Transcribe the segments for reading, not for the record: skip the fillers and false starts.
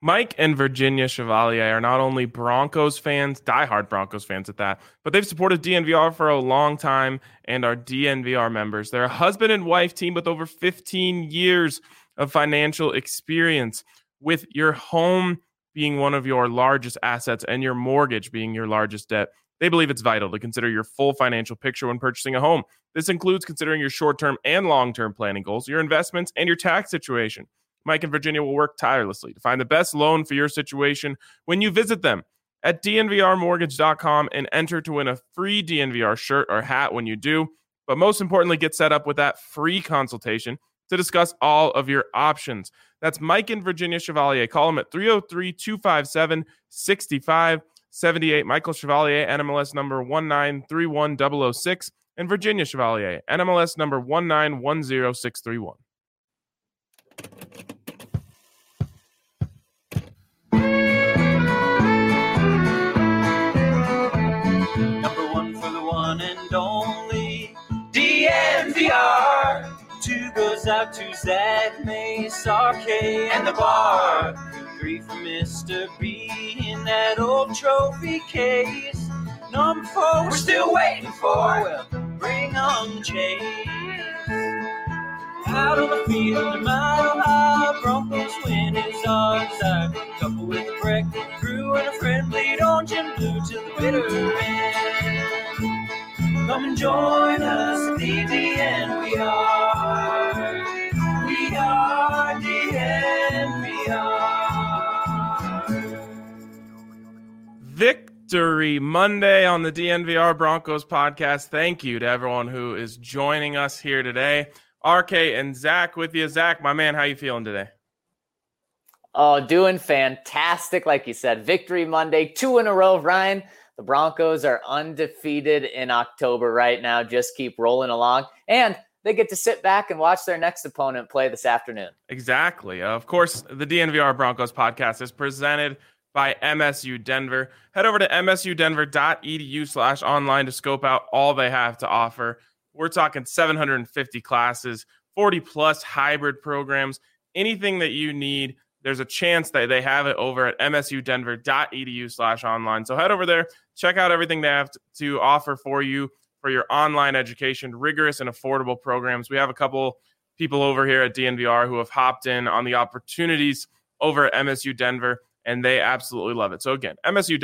Mike and Virginia Chevalier are not only Broncos fans, diehard Broncos fans at that, but they've supported DNVR for a long time and are DNVR members. They're a husband and wife team with over 15 years of financial experience, with your home being one of your largest assets and your mortgage being your largest debt. They believe it's vital to consider your full financial picture when purchasing a home. This includes considering your short-term and long-term planning goals, your investments, and your tax situation. Mike and Virginia will work tirelessly to find the best loan for your situation when you visit them at dnvrmortgage.com and enter to win a free DNVR shirt or hat when you do. But most importantly, get set up with that free consultation to discuss all of your options. That's Mike and Virginia Chevalier. Call them at 303-257-6578. Michael Chevalier, NMLS number 1931006, and Virginia Chevalier, NMLS number 1910631. Number one for the one and only DNVR. Two goes out to Zach Mace, RK, and the bar. 3 for Mr. B in that old trophy case. Number 4 we're still waiting for. Well, bring on Chase. Out on the field, a mile high, Broncos win is our desire. Couple with a breakfast crew and a friendly orange and blue to the bitter end. Come and join us at the DNVR. We are DNVR. Victory Monday on the DNVR Broncos podcast. Thank you to everyone who is joining us here today. RK and Zach with you. Zach, my man, how you feeling today? Oh, doing fantastic. Like you said, Victory Monday, 2 in a row. Ryan, the Broncos are undefeated in October right now. Just keep rolling along. And they get to sit back and watch their next opponent play this afternoon. Exactly. Of course, the DNVR Broncos podcast is presented by MSU Denver. Head over to msudenver.edu/online to scope out all they have to offer. We're talking 750 classes, 40 plus hybrid programs, anything that you need. There's a chance that they have it over at msudenver.edu/online. So head over there, check out everything they have to offer for you for your online education, rigorous and affordable programs. We have a couple people over here at DNVR who have hopped in on the opportunities over at MSU Denver, and they absolutely love it. So again,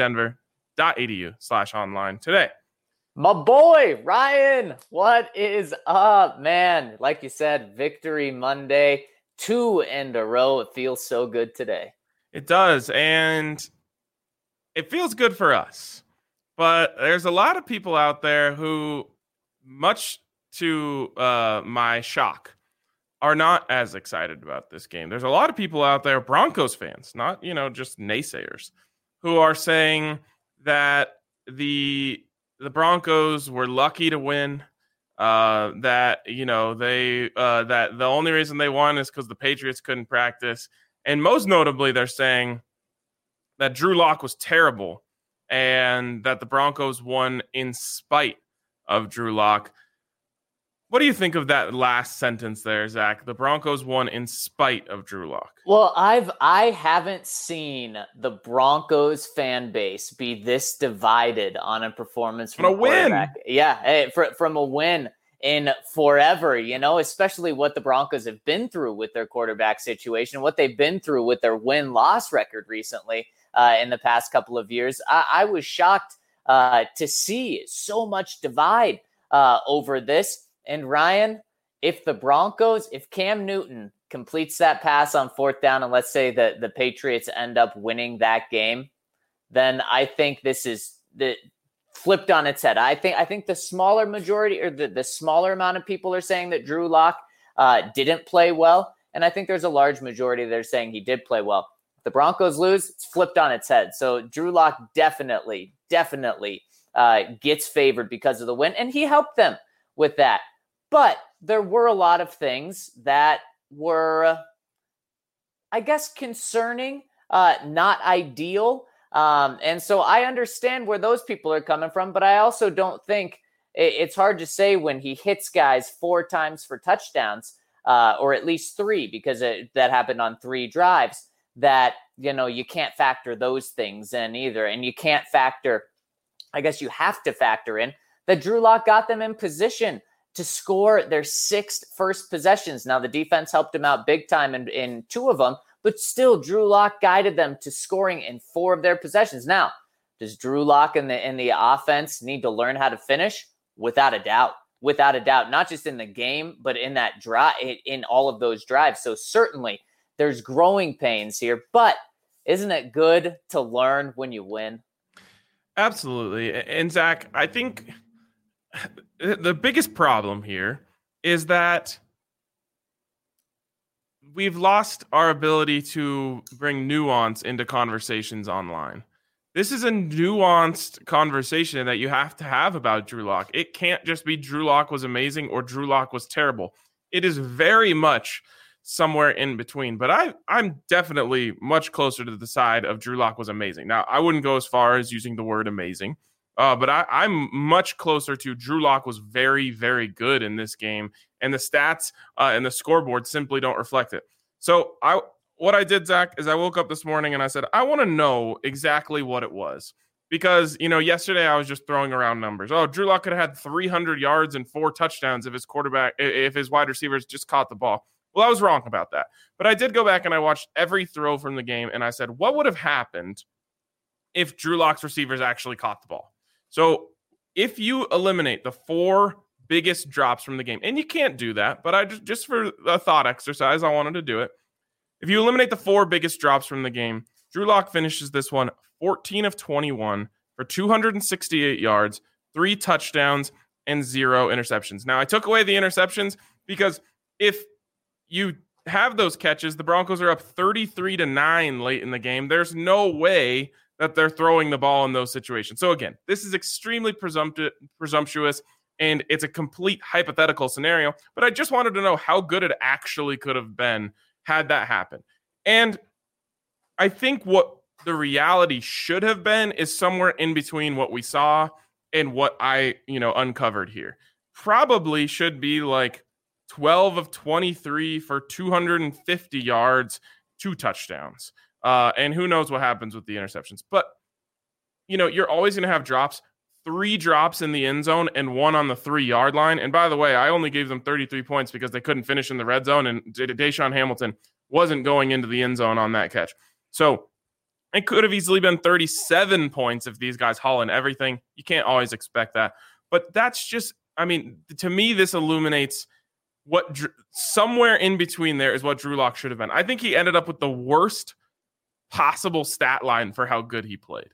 msudenver.edu/online today. My boy, Ryan, what is up, man? Like you said, Victory Monday, 2 in a row. It feels so good today. It does, and it feels good for us. But there's a lot of people out there who, much to my shock, are not as excited about this game. There's a lot of people out there, Broncos fans, not, just naysayers, who are saying that the Broncos were lucky to win. That the only reason they won is because the Patriots couldn't practice, and most notably, they're saying that Drew Lock was terrible, and that the Broncos won in spite of Drew Lock. What do you think of that last sentence there, Zach? The Broncos won in spite of Drew Lock. Well, I haven't seen the Broncos fan base be this divided on a performance from a win. Yeah, from a win in forever, especially what the Broncos have been through with their quarterback situation, what they've been through with their win-loss record recently in the past couple of years. I was shocked to see so much divide over this. And Ryan, if Cam Newton completes that pass on 4th down, and let's say that the Patriots end up winning that game, then I think this is flipped on its head. I think the smaller majority, or the smaller amount of people, are saying that Drew Lock didn't play well, and I think there's a large majority that are saying he did play well. If the Broncos lose, it's flipped on its head. So Drew Lock definitely gets favored because of the win, and he helped them with that. But there were a lot of things that were, I guess, concerning, not ideal. And so I understand where those people are coming from, but I also don't think it's hard to say when he hits guys 4 times for touchdowns, or at least 3, because that happened on 3 drives, that, you can't factor those things in either. And you can't factor, I guess you have to factor in that Drew Lock got them in position to score their 6 first possessions. Now, the defense helped him out big time in 2 of them, but still Drew Lock guided them to scoring in 4 of their possessions. Now, does Drew Lock and the offense need to learn how to finish? Without a doubt. Without a doubt, not just in the game, but in that drive, in all of those drives. So certainly there's growing pains here, but isn't it good to learn when you win? Absolutely. And Zach, I think the biggest problem here is that we've lost our ability to bring nuance into conversations online. This is a nuanced conversation that you have to have about Drew Lock. It can't just be Drew Lock was amazing or Drew Lock was terrible. It is very much somewhere in between. But I'm definitely much closer to the side of Drew Lock was amazing. Now, I wouldn't go as far as using the word amazing, but I'm much closer to Drew Lock was very, very good in this game. And the stats and the scoreboard simply don't reflect it. So what I did, Zach, is I woke up this morning and I said, I want to know exactly what it was. Because, yesterday I was just throwing around numbers. Oh, Drew Lock could have had 300 yards and 4 touchdowns if his wide receivers just caught the ball. Well, I was wrong about that. But I did go back and I watched every throw from the game and I said, what would have happened if Drew Lock's receivers actually caught the ball? So if you eliminate the 4 biggest drops from the game, and you can't do that, but I just for a thought exercise, I wanted to do it. If you eliminate the 4 biggest drops from the game, Drew Lock finishes this one 14 of 21 for 268 yards, 3 touchdowns, and 0 interceptions. Now, I took away the interceptions because if you have those catches, the Broncos are up 33-9 late in the game. There's no way that they're throwing the ball in those situations. So again, this is extremely presumptuous, and it's a complete hypothetical scenario, but I just wanted to know how good it actually could have been had that happen. And I think what the reality should have been is somewhere in between what we saw and what I, uncovered here. Probably should be like 12 of 23 for 250 yards, 2 touchdowns. And who knows what happens with the interceptions. But, you're always going to have drops. 3 drops in the end zone and 1 on the 3-yard line. And by the way, I only gave them 33 points because they couldn't finish in the red zone, and Deshaun Hamilton wasn't going into the end zone on that catch. So it could have easily been 37 points if these guys haul in everything. You can't always expect that. But that's just, to me, this illuminates what somewhere in between there is what Drew Lock should have been. I think he ended up with the worst possible stat line for how good he played.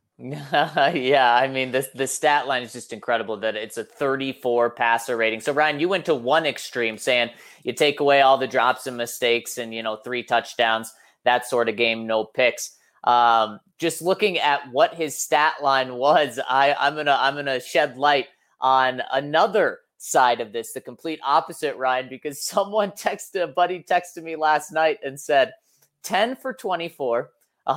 Yeah, the stat line is just incredible that it's a 34 passer rating. So, Ryan, you went to one extreme saying you take away all the drops and mistakes and, 3 touchdowns, that sort of game, no picks. Just looking at what his stat line was, I'm gonna shed light on another side of this, the complete opposite, Ryan, because a buddy texted me last night and said 10 for 24,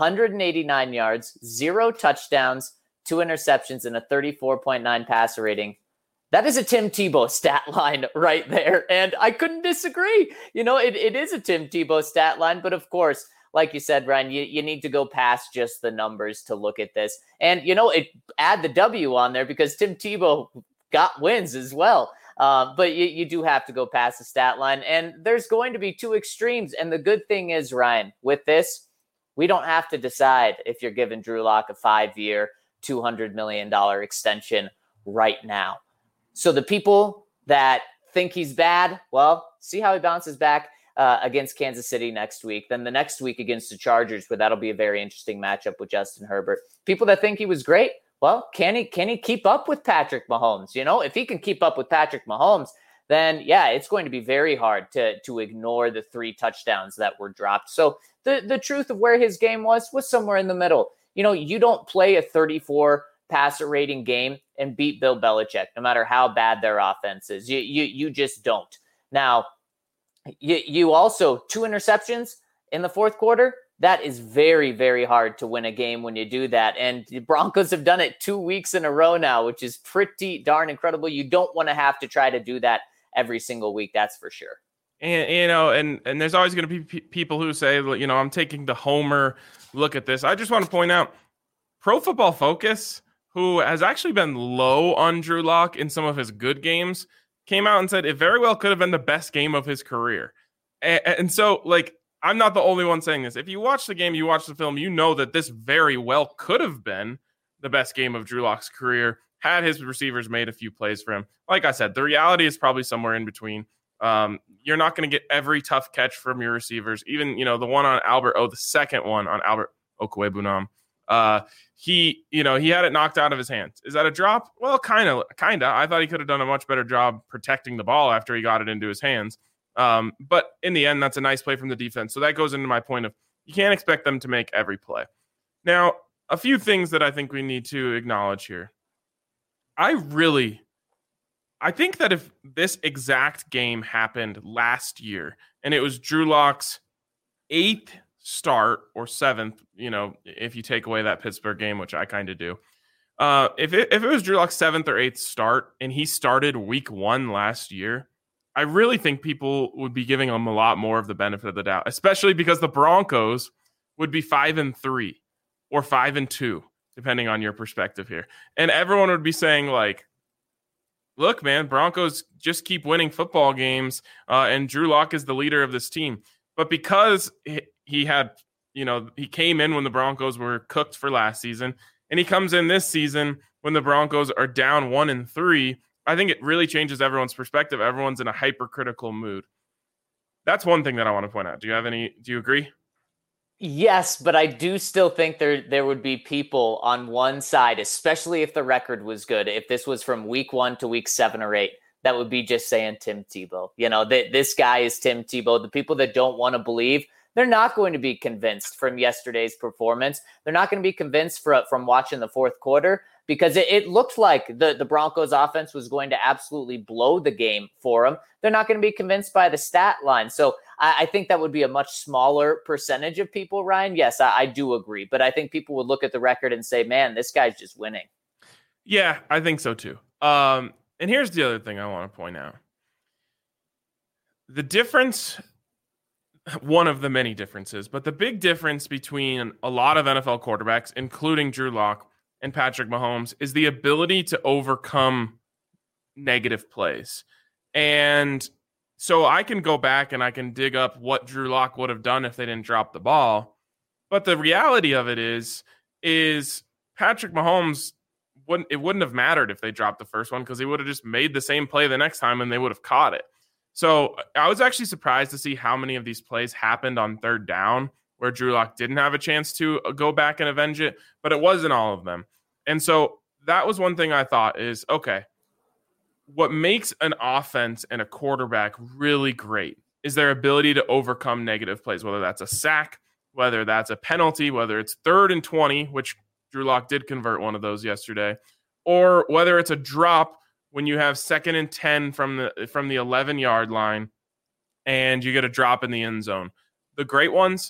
189 yards, 0 touchdowns, 2 interceptions, and a 34.9 passer rating. That is a Tim Tebow stat line right there. And I couldn't disagree. It is a Tim Tebow stat line, but of course, like you said, Ryan, you need to go past just the numbers to look at this. And, add the W on there because Tim Tebow got wins as well. But you do have to go past the stat line. And there's going to be 2 extremes. And the good thing is, Ryan, with this, we don't have to decide if you're giving Drew Lock a 5-year, $200 million extension right now. So the people that think he's bad, well, see how he bounces back against Kansas City next week. Then the next week against the Chargers, where that'll be a very interesting matchup with Justin Herbert. People that think he was great, well, can he keep up with Patrick Mahomes? If he can keep up with Patrick Mahomes, then yeah, it's going to be very hard to ignore the 3 touchdowns that were dropped. So the truth of where his game was somewhere in the middle. You don't play a 34 passer rating game and beat Bill Belichick, no matter how bad their offense is. You just don't. Now, you also 2 interceptions in the fourth quarter. That is very, very hard to win a game when you do that. And the Broncos have done it 2 weeks in a row now, which is pretty darn incredible. You don't want to have to try to do that every single week. That's for sure. And and there's always going to be people who say, I'm taking the homer look at this. I just want to point out Pro Football Focus, who has actually been low on Drew Lock in some of his good games, came out and said it very well could have been the best game of his career. And so, I'm not the only one saying this. If you watch the game, you watch the film, you know that this very well could have been the best game of Drew Lock's career had his receivers made a few plays for him. Like I said, the reality is probably somewhere in between. You're not going to get every tough catch from your receivers. Even, the one on the second one on Albert Okwuegbunam. He had it knocked out of his hands. Is that a drop? Well, kind of. I thought he could have done a much better job protecting the ball after he got it into his hands. But in the end, that's a nice play from the defense. So that goes into my point of you can't expect them to make every play. Now, a few things that I think we need to acknowledge here. I think that if this exact game happened last year and it was Drew Lock's 8th start or 7th, if you take away that Pittsburgh game, which I kind of do. If it was Drew Lock's 7th or 8th start and he started week 1 last year, I really think people would be giving him a lot more of the benefit of the doubt, especially because the Broncos would be 5-3 or 5-2, depending on your perspective here. And everyone would be saying look, man, Broncos just keep winning football games, and Drew Lock is the leader of this team. But because he had, he came in when the Broncos were cooked for last season, and he comes in this season when the Broncos are down 1-3, I think it really changes everyone's perspective. Everyone's in a hypercritical mood. That's one thing that I want to point out. Do you agree? Yes, but I do still think there would be people on one side, especially if the record was good. If this was from week 1 to week 7 or 8, that would be just saying Tim Tebow. This guy is Tim Tebow. The people that don't want to believe, they're not going to be convinced from yesterday's performance. They're not going to be convinced from watching the fourth quarter because it looked like the Broncos offense was going to absolutely blow the game for them. They're not going to be convinced by the stat line. So I think that would be a much smaller percentage of people, Ryan. Yes, I do agree. But I think people would look at the record and say, man, this guy's just winning. Yeah, I think so too. And here's the other thing I want to point out. The difference, one of the many differences, but the big difference between a lot of NFL quarterbacks, including Drew Lock and Patrick Mahomes, is the ability to overcome negative plays. And so I can go back and I can dig up what Drew Lock would have done if they didn't drop the ball. But the reality of it is Patrick Mahomes, wouldn't have mattered if they dropped the first one because he would have just made the same play the next time and they would have caught it. So I was actually surprised to see how many of these plays happened on third down where Drew Lock didn't have a chance to go back and avenge it, but it wasn't all of them. And so that was one thing I thought is, okay, what makes an offense and a quarterback really great is their ability to overcome negative plays, whether that's a sack, whether that's a penalty, whether it's 3rd and 20, which Drew Lock did convert one of those yesterday, or whether it's a drop when you have 2nd and 10 from the 11-yard line and you get a drop in the end zone. The great ones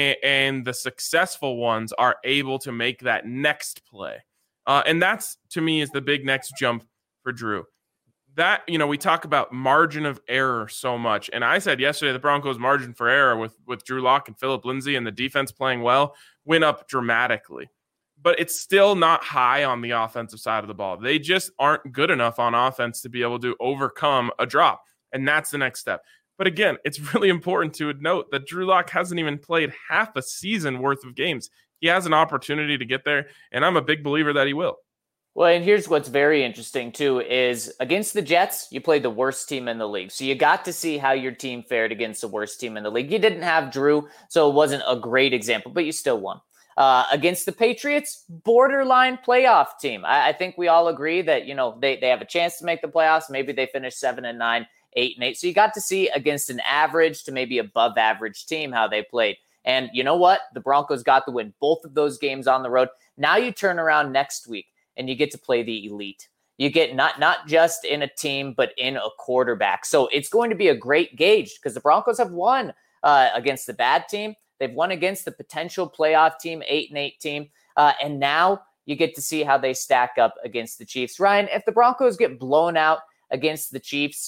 and the successful ones are able to make that next play. And that's, to me, is the big next jump for Drew. That, we talk about margin of error so much. And I said yesterday the Broncos' margin for error with Drew Lock and Phillip Lindsay and the defense playing well went up dramatically. But it's still not high on the offensive side of the ball. They just aren't good enough on offense to be able to overcome a drop. And that's the next step. But again, it's really important to note that Drew Lock hasn't even played half a season worth of games. He has an opportunity to get there, and I'm a big believer that he will. Well, and here's what's very interesting, too, is against the Jets, you played the worst team in the league. So you got to see how your team fared against the worst team in the league. You didn't have Drew, so it wasn't a great example, but you still won. Against the Patriots, borderline playoff team. I think we all agree that, they have a chance to make the playoffs. Maybe they finish 7-9, 8-8. So you got to see against an average to maybe above average team how they played. And you know what? The Broncos got to win both of those games on the road. Now you turn around next week and you get to play the elite. You get not just in a team, but in a quarterback. So it's going to be a great gauge because the Broncos have won against the bad team. They've won against the potential playoff team, 8-8 team. And now you get to see how they stack up against the Chiefs. Ryan, if the Broncos get blown out against the Chiefs,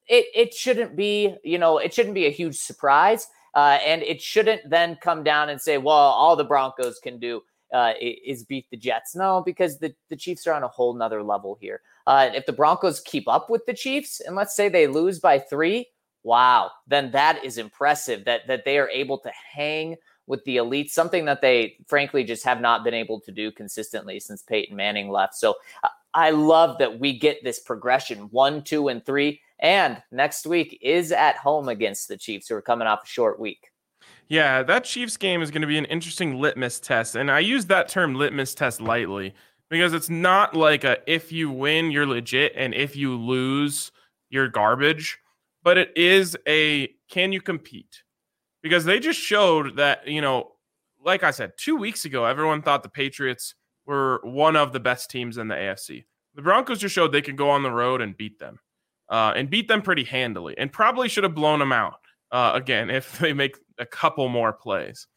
it shouldn't be, it shouldn't be a huge surprise. And it shouldn't then come down and say, well, all the Broncos can do is beat the Jets. No, because the Chiefs are on a whole nother level here. If the Broncos keep up with the Chiefs, and let's say they lose by 3, wow, then that is impressive that they are able to hang with the elite, something that they frankly just have not been able to do consistently since Peyton Manning left. So I love that we get this progression 1, 2, and 3. And next week is at home against the Chiefs, who are coming off a short week. Yeah, that Chiefs game is going to be an interesting litmus test. And I use that term litmus test lightly because it's not like if you win, you're legit, and if you lose, you're garbage. But it is can you compete? Because they just showed that, like I said, 2 weeks ago, everyone thought the Patriots were one of the best teams in the AFC. The Broncos just showed they could go on the road and beat them. And beat them pretty handily, and probably should have blown them out again if they make a couple more plays.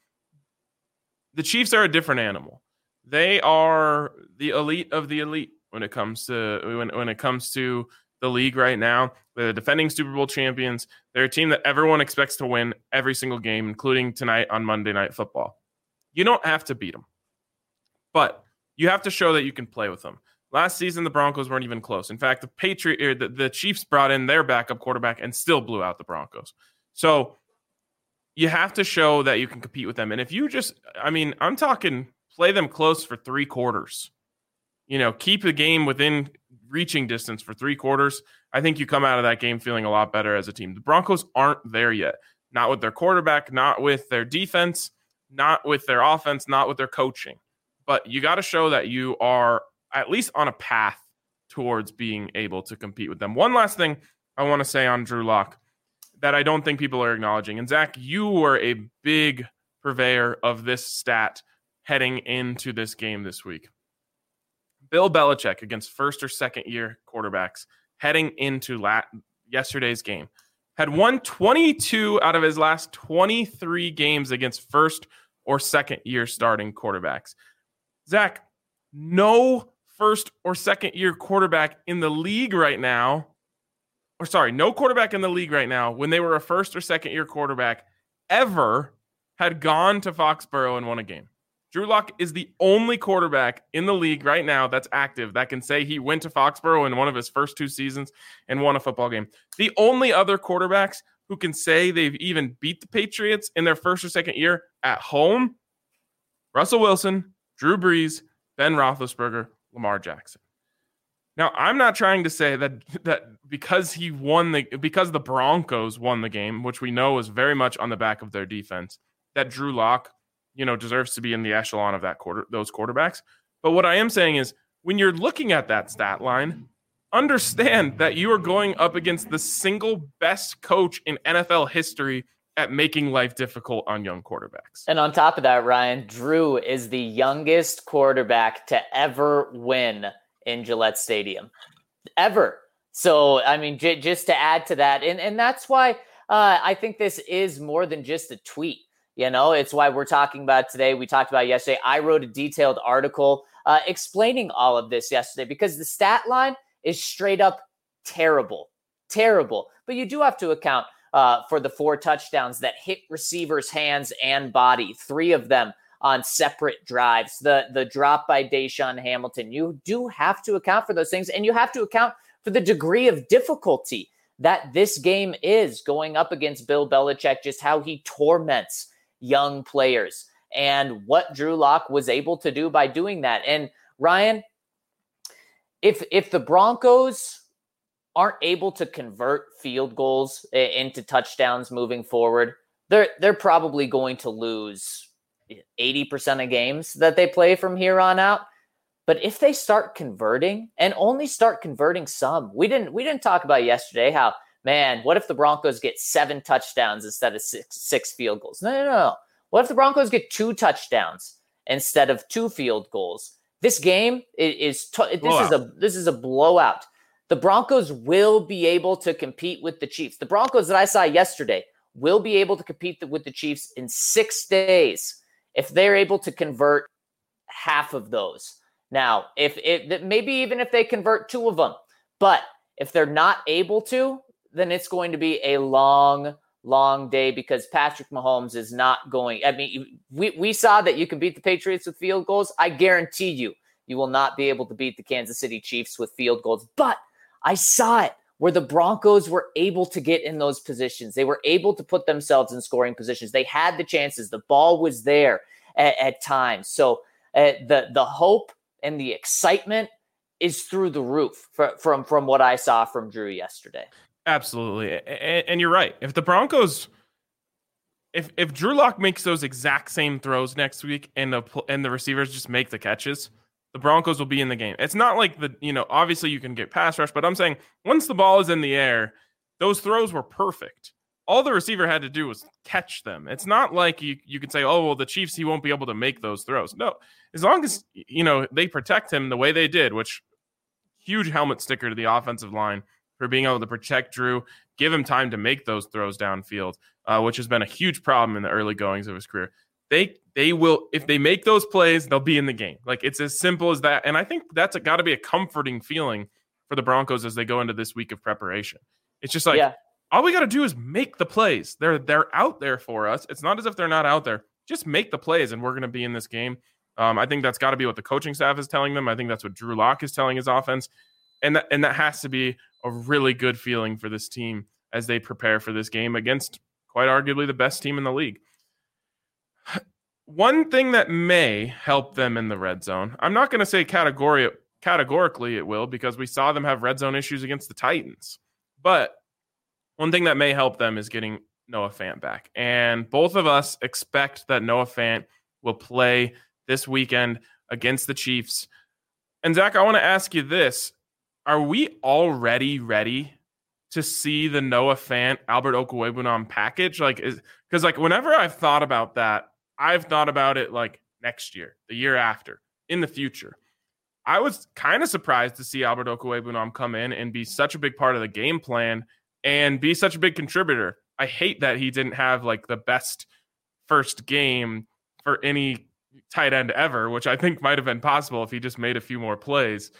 The Chiefs are a different animal. They are the elite of the elite when it comes to when it comes to the league right now. They're the defending Super Bowl champions. They're a team that everyone expects to win every single game, including tonight on Monday Night Football. You don't have to beat them, but you have to show that you can play with them. Last season, the Broncos weren't even close. In fact, the Chiefs brought in their backup quarterback and still blew out the Broncos. So you have to show that you can compete with them. And if you I'm talking play them close for 3 quarters. Keep the game within reaching distance for 3 quarters. I think you come out of that game feeling a lot better as a team. The Broncos aren't there yet. Not with their quarterback, not with their defense, not with their offense, not with their coaching. But you got to show that you are at least on a path towards being able to compete with them. One last thing I want to say on Drew Lock that I don't think people are acknowledging. And Zach, you were a big purveyor of this stat heading into this game this week. Bill Belichick against first or second year quarterbacks heading into yesterday's game had won 22 out of his last 23 games against first or second year starting quarterbacks. Zach, no first or second year quarterback in the league right now, no quarterback in the league right now when they were a first or second year quarterback ever had gone to Foxborough and won a game. Drew Lock is the only quarterback in the league right now that's active that can say he went to Foxborough in one of his first 2 seasons and won a football game. The only other quarterbacks who can say they've even beat the Patriots in their first or second year at home, Russell Wilson, Drew Brees, Ben Roethlisberger, Lamar Jackson. Now, I'm not trying to say that because the Broncos won the game, which we know is very much on the back of their defense, that Drew Lock, deserves to be in the echelon of those quarterbacks. But what I am saying is, when you're looking at that stat line, understand that you are going up against the single best coach in NFL history at making life difficult on young quarterbacks. And on top of that, Ryan, Drew is the youngest quarterback to ever win in Gillette Stadium. Ever. So, just to add to that, and that's why I think this is more than just a tweet. It's why we're talking about it today. We talked about it yesterday. I wrote a detailed article explaining all of this yesterday because the stat line is straight up terrible. But you do have to account for the 4 touchdowns that hit receivers' hands and body, 3 of them on separate drives. The drop by Deshaun Hamilton. You do have to account for those things, and you have to account for the degree of difficulty that this game is going up against Bill Belichick, just how he torments young players and what Drew Lock was able to do by doing that. And Ryan, if the Broncos aren't able to convert field goals into touchdowns moving forward, they're probably going to lose 80% of games that they play from here on out. But if they start converting and only start converting some, we didn't talk about yesterday how, man, what if the Broncos get 7 touchdowns instead of six field goals? No. What if the Broncos get 2 touchdowns instead of 2 field goals? This game is a blowout. The Broncos will be able to compete with the Chiefs. The Broncos that I saw yesterday will be able to compete with the Chiefs in 6 days if they're able to convert half of those. Now, maybe even if they convert 2 of them, but if they're not able to, then it's going to be a long day because Patrick Mahomes is not going. I mean, we saw that you can beat the Patriots with field goals. I guarantee you will not be able to beat the Kansas City Chiefs with field goals. But I saw it where the Broncos were able to get in those positions. They were able to put themselves in scoring positions. They had the chances. The ball was there at times. So the hope and the excitement is through the roof from what I saw from Drew yesterday. Absolutely. And you're right. If the Broncos, if Drew Lock makes those exact same throws next week and the receivers just make the catches, the Broncos will be in the game. It's not like obviously you can get pass rush, but I'm saying once the ball is in the air, those throws were perfect. All the receiver had to do was catch them. It's not like you could say, oh, well, the Chiefs, he won't be able to make those throws. No, as long as, they protect him the way they did, which huge helmet sticker to the offensive line for being able to protect Drew, give him time to make those throws downfield, which has been a huge problem in the early goings of his career. They will, if they make those plays, they'll be in the game. Like, it's as simple as that. And I think that's got to be a comforting feeling for the Broncos as they go into this week of preparation. It's just like, all we got to do is make the plays. They're out there for us. It's not as if they're not out there. Just make the plays and we're going to be in this game. I think that's got to be what the coaching staff is telling them. I think that's what Drew Lock is telling his offense. And that has to be a really good feeling for this team as they prepare for this game against quite arguably the best team in the league. One thing that may help them in the red zone, I'm not going to say categorically it will, because we saw them have red zone issues against the Titans. But one thing that may help them is getting Noah Fant back. And both of us expect that Noah Fant will play this weekend against the Chiefs. And Zach, I want to ask you this. Are we already ready to see the Noah Fant, Albert Okwuegbunam package? Because whenever I've thought about that, I've thought about it like next year, the year after, in the future. I was kind of surprised to see Albert Okwuegbunam come in and be such a big part of the game plan and be such a big contributor. I hate that he didn't have like the best first game for any tight end ever, which I think might have been possible if he just made a few more plays.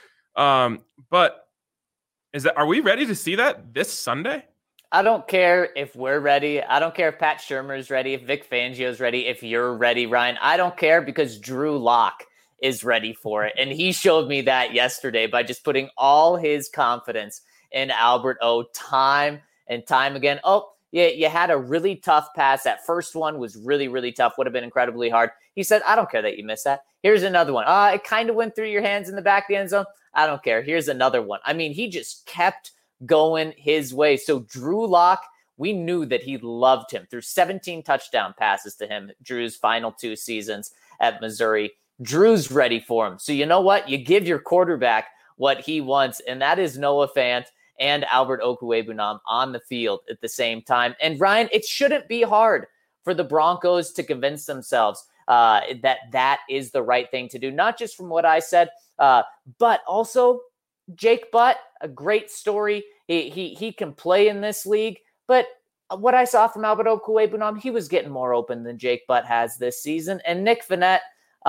But are we ready to see that this Sunday? I don't care if we're ready. I don't care if Pat Shurmur is ready, if Vic Fangio is ready, if you're ready, Ryan. I don't care, because Drew Lock is ready for it. And he showed me that yesterday by just putting all his confidence in Albert O time and time again. Oh, yeah, you had a really tough pass. That first one was really, really tough. Would have been incredibly hard. He said, I don't care that you missed that. Here's another one. It kind of went through your hands in the back of the end zone. I don't care. Here's another one. I mean, he just kept going his way. So Drew Lock, we knew that he loved him through 17 touchdown passes to him, Drew's final 2 seasons at Missouri. Drew's ready for him. So you know what? You give your quarterback what he wants, and that is Noah Fant and Albert Okwuegbunam on the field at the same time. And Ryan, it shouldn't be hard for the Broncos to convince themselves that is the right thing to do, not just from what I said, but also Jake Butt, a great story. He can play in this league, but what I saw from Albert Okwuegbunam, he was getting more open than Jake Butt has this season. And Nick Vannett,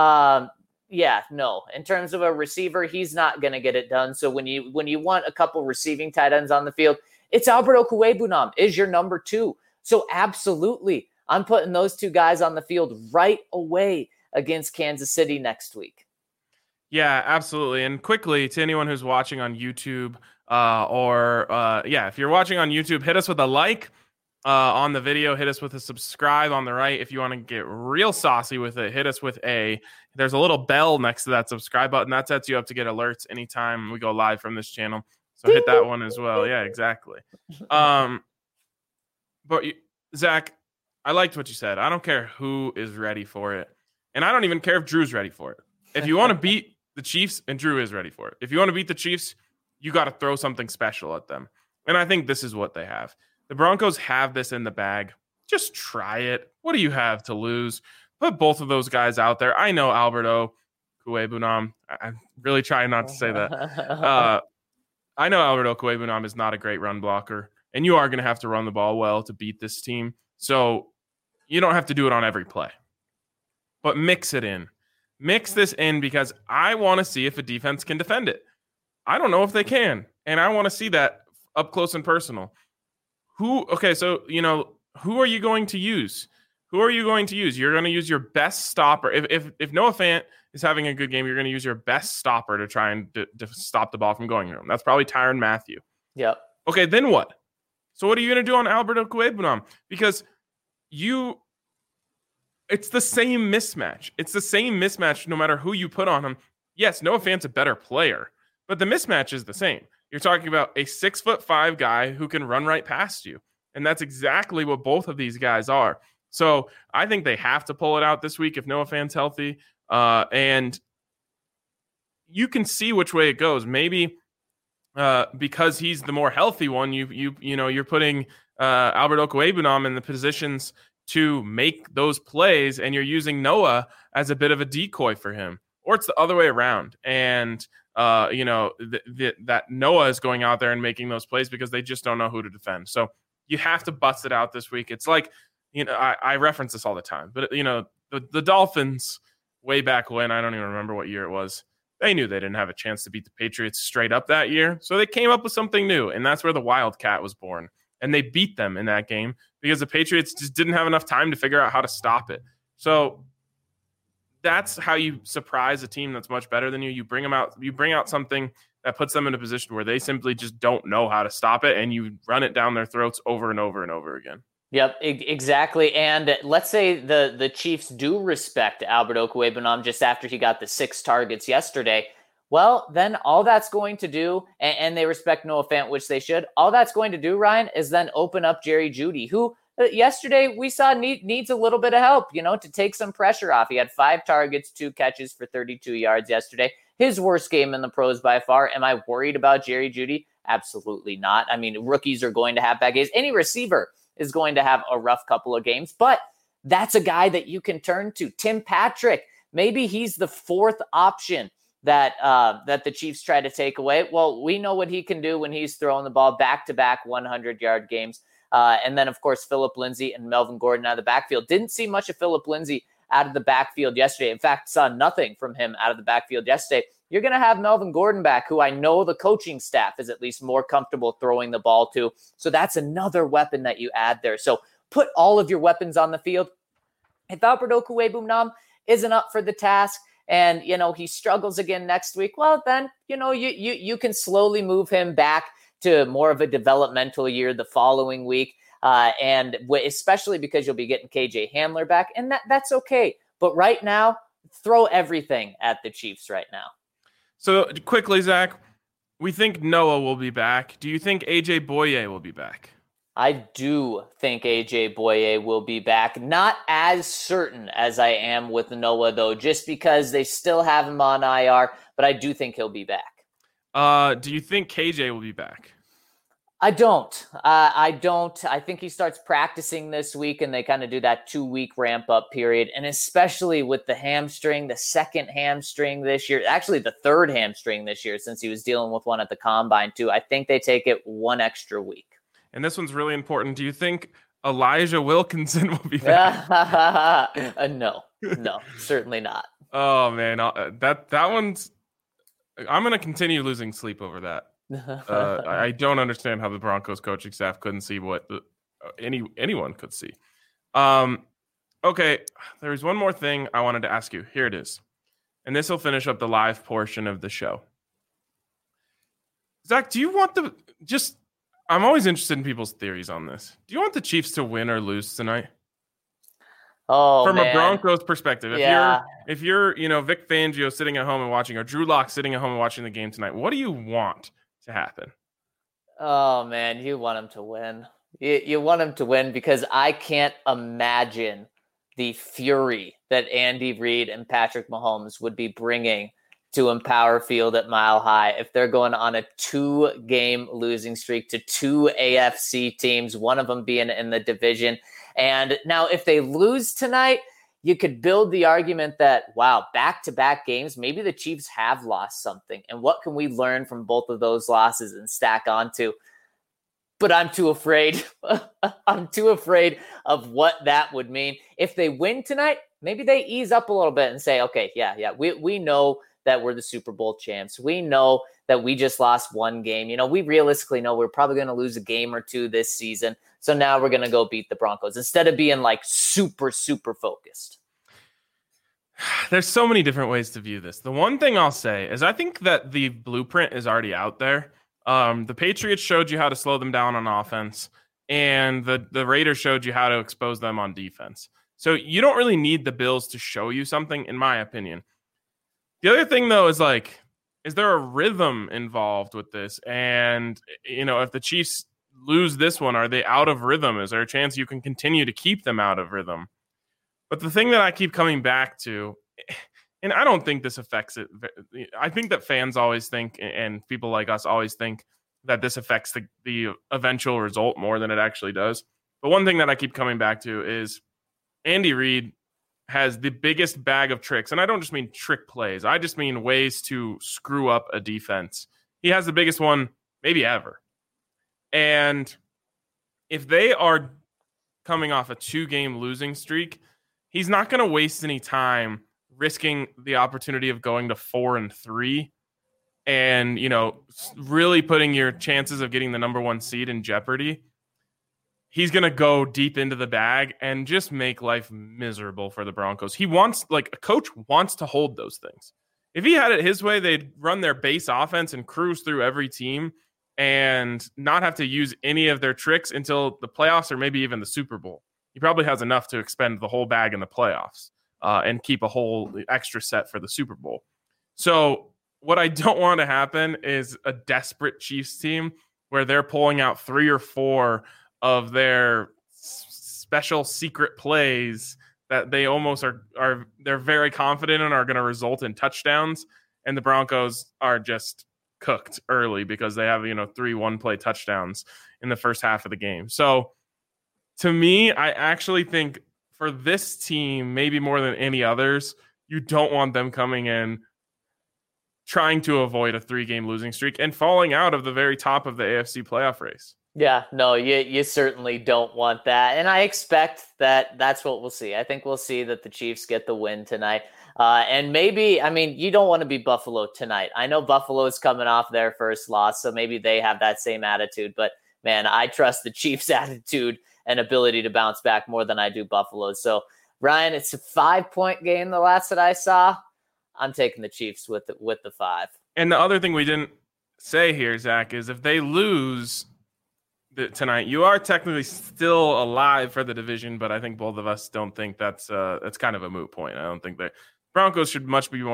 in terms of a receiver, he's not going to get it done. So when you want a couple receiving tight ends on the field, it's Albert Okwuegbunam is your number 2. So absolutely, I'm putting those 2 guys on the field right away against Kansas City next week. Yeah, absolutely. And quickly, to anyone who's watching on YouTube, if you're watching on YouTube, hit us with a like on the video, hit us with a subscribe on the right. If you want to get real saucy with it, hit us with there's a little bell next to that subscribe button. That sets you up to get alerts anytime we go live from this channel. So hit that one as well. Yeah, exactly. But Zach, I liked what you said. I don't care who is ready for it. And I don't even care if Drew's ready for it. If you want to beat the Chiefs, and Drew is ready for it. If you want to beat the Chiefs, you got to throw something special at them. And I think this is what they have. The Broncos have this in the bag. Just try it. What do you have to lose? Put both of those guys out there. I know Albert Okwuegbunam. I'm really trying not to say that. I know Albert Okwuegbunam is not a great run blocker, and you are going to have to run the ball well to beat this team. So you don't have to do it on every play. But mix it in. Mix this in, because I want to see if a defense can defend it. I don't know if they can, and I want to see that up close and personal. Okay, so who are you going to use? Who are you going to use? You're going to use your best stopper. If Noah Fant is having a good game, you're going to use your best stopper to try and to stop the ball from going to him. That's probably Tyrann Mathieu. Yep. Okay, then what? So what are you going to do on Albert Okwuegbunam? Because it's the same mismatch. It's the same mismatch no matter who you put on him. Yes, Noah Fant's a better player, but the mismatch is the same. You're talking about a 6'5" guy who can run right past you. And that's exactly what both of these guys are. So I think they have to pull it out this week if Noah Fant's healthy. And you can see which way it goes. Maybe because he's the more healthy one, you're putting Albert Okwuegbunam in the positions to make those plays, and you're using Noah as a bit of a decoy for him, or it's the other way around. And that Noah is going out there and making those plays because they just don't know who to defend. So you have to bust it out this week. It's like, I reference this all the time, but the Dolphins way back when, I don't even remember what year it was. They knew they didn't have a chance to beat the Patriots straight up that year. So they came up with something new, and that's where the Wildcat was born. And they beat them in that game because the Patriots just didn't have enough time to figure out how to stop it. So that's how you surprise a team that's much better than you. You bring out something that puts them in a position where they simply just don't know how to stop it, and you run it down their throats over and over and over again. Yep, exactly. And let's say the Chiefs do respect Albert Okwuegbunam just after he got the 6 targets yesterday. Well, then all that's going to do, and they respect Noah Fant, which they should, all that's going to do, Ryan, is then open up Jerry Jeudy, who yesterday we saw needs a little bit of help, to take some pressure off. He had 5 targets, 2 catches for 32 yards yesterday. His worst game in the pros by far. Am I worried about Jerry Jeudy? Absolutely not. I mean, rookies are going to have bad games. Any receiver is going to have a rough couple of games, but that's a guy that you can turn to. Tim Patrick, maybe he's the 4th option that the Chiefs try to take away. Well, we know what he can do when he's throwing the ball back-to-back 100-yard games. And then, of course, Phillip Lindsay and Melvin Gordon out of the backfield. Didn't see much of Phillip Lindsay out of the backfield yesterday. In fact, saw nothing from him out of the backfield yesterday. You're going to have Melvin Gordon back, who I know the coaching staff is at least more comfortable throwing the ball to. So that's another weapon that you add there. So put all of your weapons on the field. If Albert Okwuegbunam isn't up for the task, and, he struggles again next week, well, then, you can slowly move him back to more of a developmental year the following week. And especially because you'll be getting KJ Hamler back, and that's okay. But right now, throw everything at the Chiefs right now. So quickly, Zach, we think Noah will be back. Do you think AJ Bouye will be back? I do think AJ Bouye will be back. Not as certain as I am with Noah, though, just because they still have him on IR, but I do think he'll be back. Do you think KJ will be back? I don't. I think he starts practicing this week, and they kind of do that 2-week ramp-up period. And especially with the hamstring, the second hamstring this year, actually the third hamstring this year since he was dealing with one at the combine too, I think they take it 1 extra week. And this one's really important. Do you think Elijah Wilkinson will be back? No, certainly not. Oh, man. That one's – I'm going to continue losing sleep over that. I don't understand how the Broncos coaching staff couldn't see what anyone could see. Okay, there's one more thing I wanted to ask you. Here it is. And this will finish up the live portion of the show. Zach, do you want I'm always interested in people's theories on this. Do you want the Chiefs to win or lose tonight? Oh, from man. a Broncos perspective, if you're Vic Fangio sitting at home and watching, or Drew Lock sitting at home and watching the game tonight, what do you want to happen? Oh, man, you want him to win. You want him to win because I can't imagine the fury that Andy Reid and Patrick Mahomes would be bringing to Empower Field at Mile High if they're going on a 2-game losing streak to 2 AFC teams, one of them being in the division. And now if they lose tonight, you could build the argument that, wow, back-to-back games, maybe the Chiefs have lost something. And what can we learn from both of those losses and stack onto? But I'm too afraid. I'm too afraid of what that would mean. If they win tonight, maybe they ease up a little bit and say, okay, yeah, we know that we're the Super Bowl champs. We know that we just lost one game. We realistically know we're probably going to lose a game or two this season. So now we're going to go beat the Broncos instead of being like super, super focused. There's so many different ways to view this. The one thing I'll say is I think that the blueprint is already out there. The Patriots showed you how to slow them down on offense, and the Raiders showed you how to expose them on defense. So you don't really need the Bills to show you something, in my opinion. The other thing, though, is is there a rhythm involved with this? And, if the Chiefs lose this one, are they out of rhythm? Is there a chance you can continue to keep them out of rhythm? But the thing that I keep coming back to, and I don't think this affects it. I think that fans always think, and people like us always think, that this affects the eventual result more than it actually does. But one thing that I keep coming back to is Andy Reid has the biggest bag of tricks. And I don't just mean trick plays. I just mean ways to screw up a defense. He has the biggest one maybe ever. And if they are coming off a 2-game losing streak, he's not going to waste any time risking the opportunity of going to 4-3 and, really putting your chances of getting the number 1 seed in jeopardy. He's going to go deep into the bag and just make life miserable for the Broncos. A coach wants to hold those things. If he had it his way, they'd run their base offense and cruise through every team and not have to use any of their tricks until the playoffs or maybe even the Super Bowl. He probably has enough to expend the whole bag in the playoffs and keep a whole extra set for the Super Bowl. So what I don't want to happen is a desperate Chiefs team where they're pulling out 3 or 4 of their special secret plays that they almost they're very confident in are going to result in touchdowns. And the Broncos are just cooked early because they have, 3 one-play touchdowns in the first half of the game. So to me, I actually think for this team, maybe more than any others, you don't want them coming in trying to avoid a 3-game losing streak and falling out of the very top of the AFC playoff race. Yeah, no, you certainly don't want that. And I expect that that's what we'll see. I think we'll see that the Chiefs get the win tonight. And maybe, you don't want to be Buffalo tonight. I know Buffalo is coming off their first loss, so maybe they have that same attitude. But, man, I trust the Chiefs' attitude and ability to bounce back more than I do Buffalo. So, Ryan, it's a 5-point game the last that I saw. I'm taking the Chiefs with the 5. And the other thing we didn't say here, Zach, is if they lose tonight, you are technically still alive for the division, but I think both of us don't think that's kind of a moot point. I don't think that Broncos should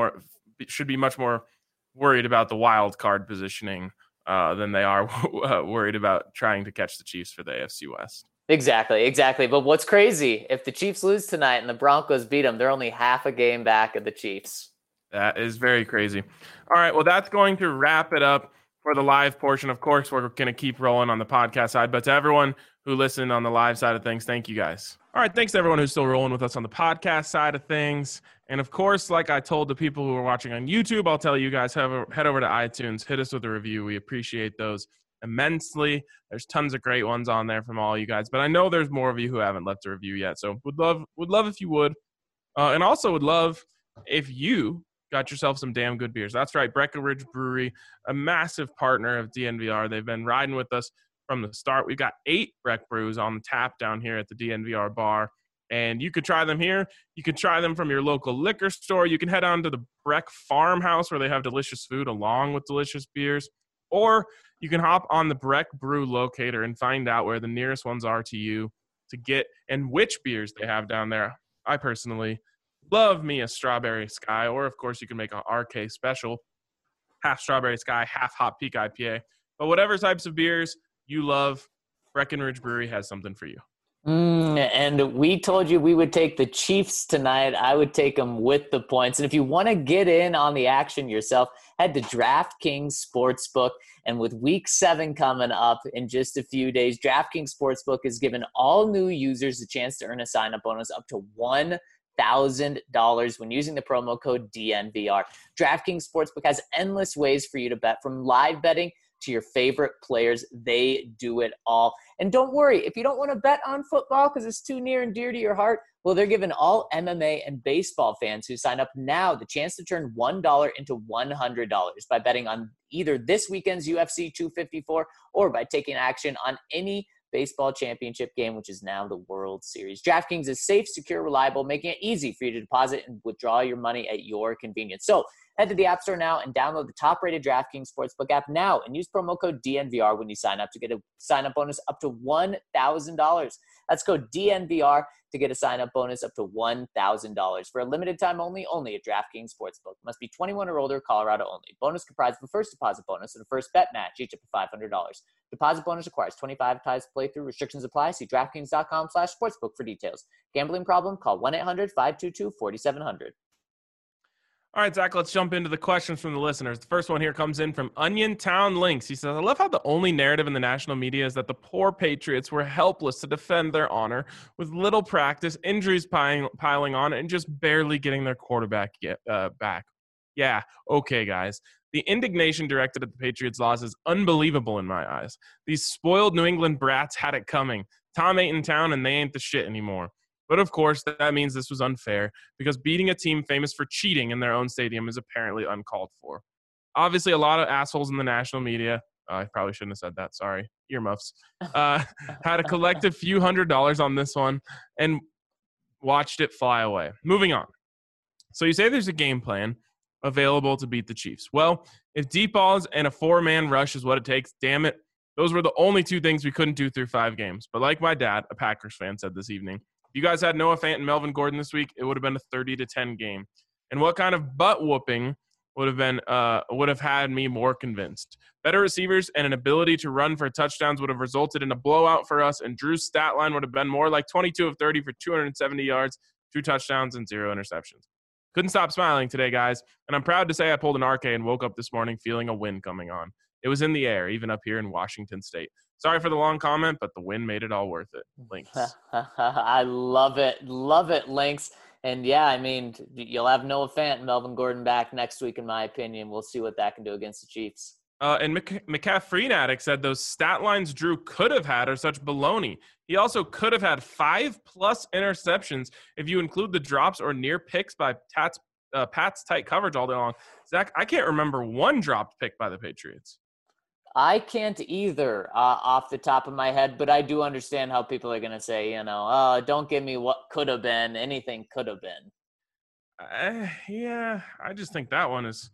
be much more worried about the wild card positioning than they are worried about trying to catch the Chiefs for the AFC West. Exactly. But what's crazy, if the Chiefs lose tonight and the Broncos beat them, they're only half a game back of the Chiefs. That is very crazy. All right, well, that's going to wrap it up for the live portion. Of course, we're going to keep rolling on the podcast side, but to everyone who listened on the live side of things, thank you guys. All right, thanks to everyone who's still rolling with us on the podcast side of things. And of course, like I told the people who are watching on YouTube, I'll tell you guys, head over to iTunes, hit us with a review. We appreciate those immensely. There's tons of great ones on there from all you guys, but I know there's more of you who haven't left a review yet. So would love if you would. And also would love if you got yourself some damn good beers. That's right, Breckenridge Brewery, a massive partner of DNVR. They've been riding with us from the start. We've got 8 Breck Brews on tap down here at the DNVR bar, and you could try them here. You could try them from your local liquor store. You can head on to the Breck Farmhouse where they have delicious food along with delicious beers, or you can hop on the Breck Brew locator and find out where the nearest ones are to you to get and which beers they have down there. I personally love me a Strawberry Sky, or of course you can make a RK special, half Strawberry Sky, half Hot Peak IPA. But whatever types of beers you love, Breckenridge Brewery has something for you. And we told you we would take the Chiefs tonight. I would take them with the points. And if you want to get in on the action yourself, head to DraftKings Sportsbook. And with Week 7 coming up in just a few days, DraftKings Sportsbook has given all new users a chance to earn a sign-up bonus up to $1,000 when using the promo code DNVR. DraftKings Sportsbook has endless ways for you to bet, from live betting to your favorite players. They do it all. And don't worry, if you don't want to bet on football because it's too near and dear to your heart, well, they're giving all MMA and baseball fans who sign up now the chance to turn $1 into $100 by betting on either this weekend's UFC 254 or by taking action on any baseball championship game, which is now the World Series. DraftKings is safe, secure, reliable, making it easy for you to deposit and withdraw your money at your convenience. So head to the App Store now and download the top-rated DraftKings Sportsbook app now and use promo code DNVR when you sign up to get a sign-up bonus up to $1,000. That's code DNVR to get a sign-up bonus up to $1,000. For a limited time only at DraftKings Sportsbook. Must be 21 or older, Colorado only. Bonus comprised of a first deposit bonus and a first bet match, each up to $500. Deposit bonus requires 25 times playthrough. Restrictions apply. See DraftKings.com/sportsbook for details. Gambling problem? Call 1-800-522-4700. All right, Zach, let's jump into the questions from the listeners. The first one here comes in from Onion Town Links. He says, I love how the only narrative in the national media is that the poor Patriots were helpless to defend their honor with little practice, injuries piling on, and just barely getting their quarterback back. Yeah, okay, guys. The indignation directed at the Patriots' loss is unbelievable in my eyes. These spoiled New England brats had it coming. Tom ain't in town, and they ain't the shit anymore. But, of course, that means this was unfair because beating a team famous for cheating in their own stadium is apparently uncalled for. Obviously, a lot of assholes in the national media I probably shouldn't have said that. Sorry. Earmuffs. Had a collective few $100s on this one and watched it fly away. Moving on. So you say there's a game plan available to beat the Chiefs. Well, if deep balls and a four-man rush is what it takes, damn it, those were the only two things we couldn't do through 5 games. But like my dad, a Packers fan, said this evening, if you guys had Noah Fant and Melvin Gordon this week, it would have been a 30-10 game. And what kind of butt whooping would have had me more convinced? Better receivers and an ability to run for touchdowns would have resulted in a blowout for us, and Drew's stat line would have been more like 22 of 30 for 270 yards, 2 touchdowns, and 0 interceptions. Couldn't stop smiling today, guys, and I'm proud to say I pulled an RK and woke up this morning feeling a win coming on. It was in the air, even up here in Washington State. Sorry for the long comment, but the win made it all worth it. Links. I love it. Love it, Links. And, yeah, I mean, you'll have Noah Fant and Melvin Gordon back next week, in my opinion. We'll see what that can do against the Chiefs. And McCaffrey Addict said those stat lines Drew could have had are such baloney. He also could have had 5+ interceptions if you include the drops or near picks by Pat's tight coverage all day long. Zach, I can't remember one dropped pick by the Patriots. I can't either off the top of my head, but I do understand how people are going to say, don't give me what could have been. Anything could have been. Yeah, I just think that one is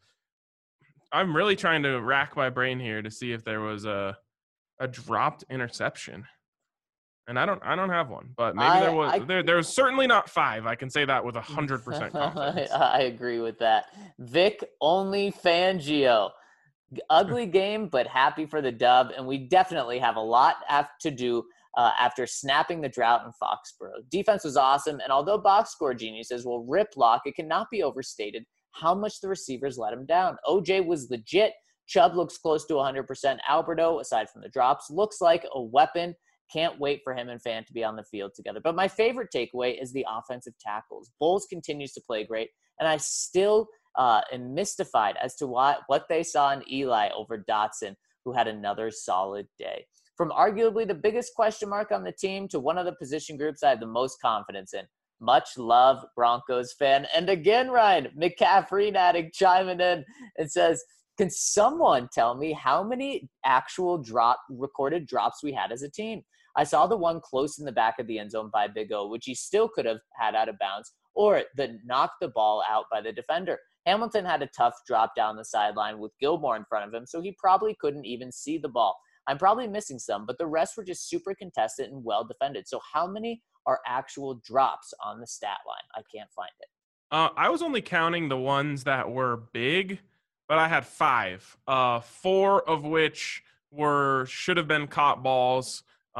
– I'm really trying to rack my brain here to see if there was a dropped interception. And I don't have one, but maybe there was. There was certainly not 5. I can say that with 100% confidence. I agree with that. Vic only Fangio. Ugly game, but happy for the dub, and we definitely have a lot to do after snapping the drought in Foxborough. Defense was awesome, and although box score geniuses will rip Lock, it cannot be overstated how much the receivers let him down. OJ was legit. Chubb looks close to 100%. Alberto, aside from the drops, looks like a weapon. Can't wait for him and Fant to be on the field together. But my favorite takeaway is the offensive tackles. Bowles continues to play great, and I still am mystified as to what they saw in Eli over Dotson, who had another solid day. From arguably the biggest question mark on the team to one of the position groups I have the most confidence in. Much love, Broncos fan. And again, Ryan, McCaffrey addict chiming in and says, can someone tell me how many actual recorded drops we had as a team? I saw the one close in the back of the end zone by Big O, which he still could have had out of bounds, or the knock the ball out by the defender. Hamilton had a tough drop down the sideline with Gilmore in front of him, so he probably couldn't even see the ball. I'm probably missing some, but the rest were just super contested and well defended. So how many are actual drops on the stat line? I can't find it. I was only counting the ones that were big, but I had 5, 4 of which should have been caught balls.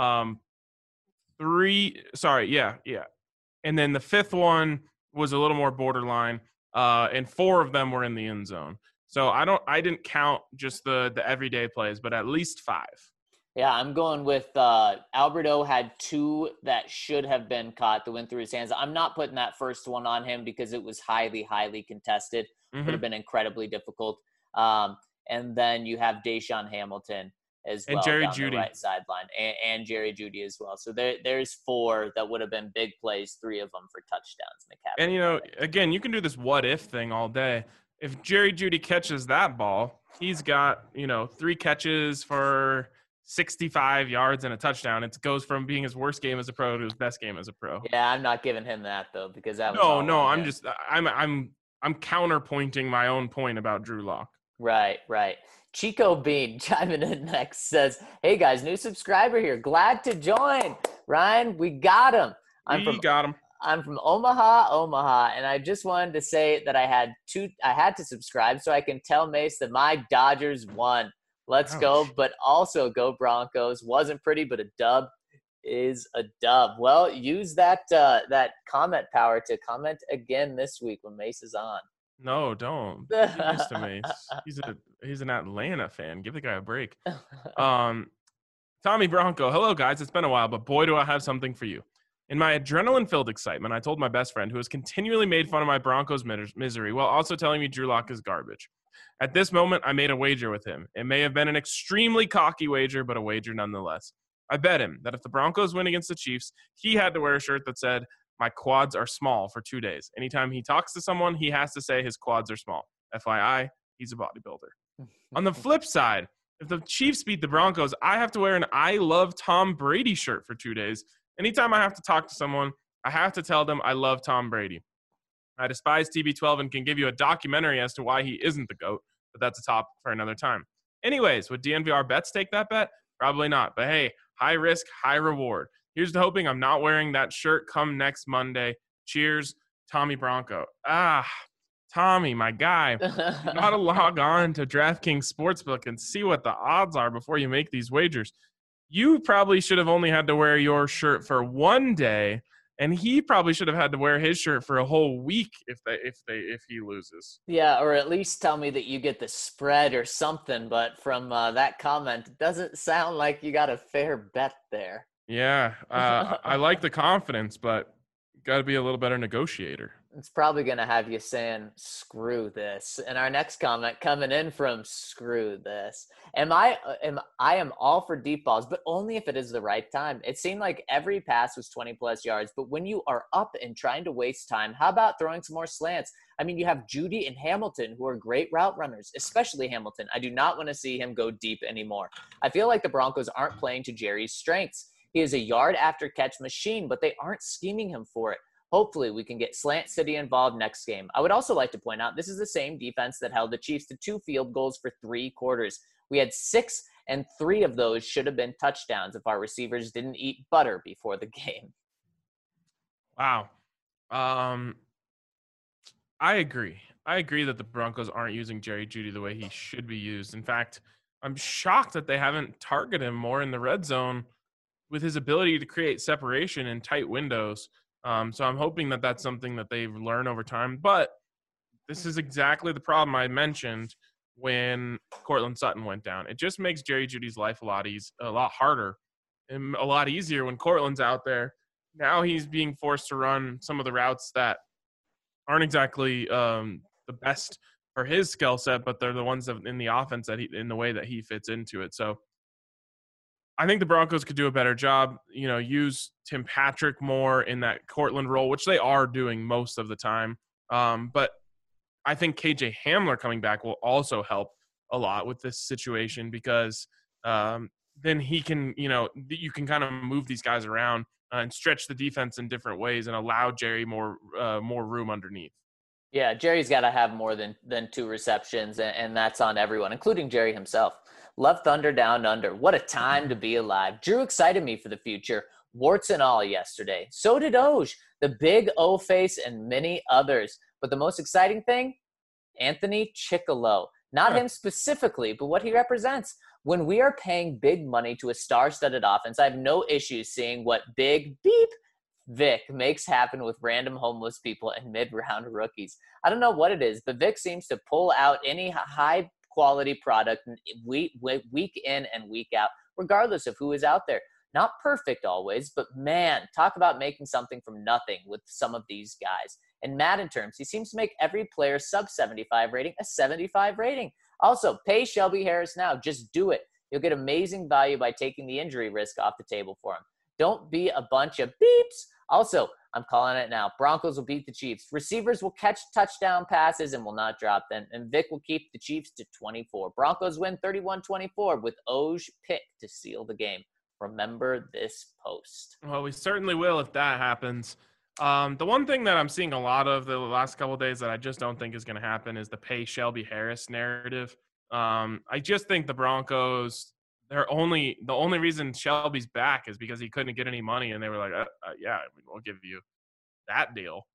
3, sorry, yeah. And then the 5th one was a little more borderline, and 4 of them were in the end zone. So I didn't count just the everyday plays, but at least 5. Yeah, I'm going with Alberto had 2 that should have been caught that went through his hands. I'm not putting that first one on him because it was highly, highly contested. Would have been incredibly difficult. and then you have Deshaun Hamilton as well And Jerry down Jeudy. the right sideline, and Jerry Jeudy as well. So there's 4 that would have been big plays, 3 of them for touchdowns. McCaffrey. And, you know, again, you can do this what-if thing all day. If Jerry Jeudy catches that ball, he's got, 3 catches for 65 yards and a touchdown. It goes from being his worst game as a pro to his best game as a pro. Yeah, I'm not giving him that, though, because that was No, all I'm just I'm counterpointing my own point about Drew Lock. Right. Chico Bean chiming in next says, "Hey guys, new subscriber here. Glad to join. Ryan, we got him. Got him. I'm from Omaha, and I just wanted to say that I had to subscribe so I can tell Mace that my Dodgers won. Let's go, but also go Broncos. Wasn't pretty, but a dub is a dub. Well, use that comment power to comment again this week when Mace is on. No, don't. Get used to Mace. He's an Atlanta fan. Give the guy a break. Tommy Bronco. Hello, guys. It's been a while, but boy, do I have something for you. In my adrenaline-filled excitement, I told my best friend, who has continually made fun of my Broncos misery while also telling me Drew Lock is garbage. At this moment, I made a wager with him. It may have been an extremely cocky wager, but a wager nonetheless. I bet him that if the Broncos win against the Chiefs, he had to wear a shirt that said, "My quads are small," for 2 days. Anytime he talks to someone, he has to say his quads are small. FYI, he's a bodybuilder. On the flip side, if the Chiefs beat the Broncos, I have to wear an "I love Tom Brady" shirt for 2 days. Anytime I have to talk to someone, I have to tell them I love Tom Brady. I despise TB12 and can give you a documentary as to why he isn't the GOAT, but that's a topic for another time. Anyways, would DNVR bets take that bet? Probably not. But hey, high risk, high reward. Here's to hoping I'm not wearing that shirt come next Monday. Cheers, Tommy Bronco. Tommy, my guy. You gotta log on to DraftKings Sportsbook and see what the odds are before you make these wagers. You probably should have only had to wear your shirt for 1 day, and he probably should have had to wear his shirt for a whole week if he loses. Yeah, or at least tell me that you get the spread or something. But from that comment, it doesn't sound like you got a fair bet there. Yeah, I like the confidence, but got to be a little better negotiator. It's probably going to have you saying, "Screw this." And our next comment coming in from "Screw this." I am all for deep balls, but only if it is the right time. It seemed like every pass was 20-plus yards, but when you are up and trying to waste time, how about throwing some more slants? I mean, you have Jeudy and Hamilton, who are great route runners, especially Hamilton. I do not want to see him go deep anymore. I feel like the Broncos aren't playing to Jerry's strengths. He is a yard-after-catch machine, but they aren't scheming him for it. Hopefully, we can get Slant City involved next game. I would also like to point out this is the same defense that held the Chiefs to 2 field goals for 3 quarters. We had 6, and 3 of those should have been touchdowns if our receivers didn't eat butter before the game. Wow. I agree. I agree that the Broncos aren't using Jerry Jeudy the way he should be used. In fact, I'm shocked that they haven't targeted him more in the red zone with his ability to create separation in tight windows. So I'm hoping that that's something that they learn over time. But this is exactly the problem I mentioned when Courtland Sutton went down. It just makes Jerry Jeudy's life a lot harder and a lot easier when Courtland's out there. Now he's being forced to run some of the routes that aren't exactly the best for his skill set, but they're the ones that in the offense in the way that he fits into it. So I think the Broncos could do a better job, use Tim Patrick more in that Courtland role, which they are doing most of the time. But I think KJ Hamler coming back will also help a lot with this situation because then he can, you can kind of move these guys around and stretch the defense in different ways and allow Jerry more room underneath. Yeah, Jerry's got to have more than 2 receptions, and that's on everyone, including Jerry himself. Love Thunder Down Under. What a time to be alive. Drew excited me for the future, warts and all yesterday. So did Oj, the big O face, and many others. But the most exciting thing, Anthony Chickillo. Not him specifically, but what he represents. When we are paying big money to a star-studded offense, I have no issues seeing what big beep Vic makes happen with random homeless people and mid-round rookies. I don't know what it is, but Vic seems to pull out any high-quality product week in and week out, regardless of who is out there. Not perfect always, but man, talk about making something from nothing with some of these guys. In Madden terms, he seems to make every player sub 75 rating a 75 rating. Also, pay Shelby Harris now. Just do it. You'll get amazing value by taking the injury risk off the table for him. Don't be a bunch of beeps. Also, I'm calling it now. Broncos will beat the Chiefs. Receivers will catch touchdown passes and will not drop them. And Vic will keep the Chiefs to 24. Broncos win 31-24 with Oj pick to seal the game. Remember this post. Well, we certainly will if that happens. The one thing that I'm seeing a lot of the last couple of days that I just don't think is going to happen is the pay Shelby Harris narrative. I just think the Broncos, the only reason Shelby's back is because he couldn't get any money, and they were like, yeah, we'll give you that deal.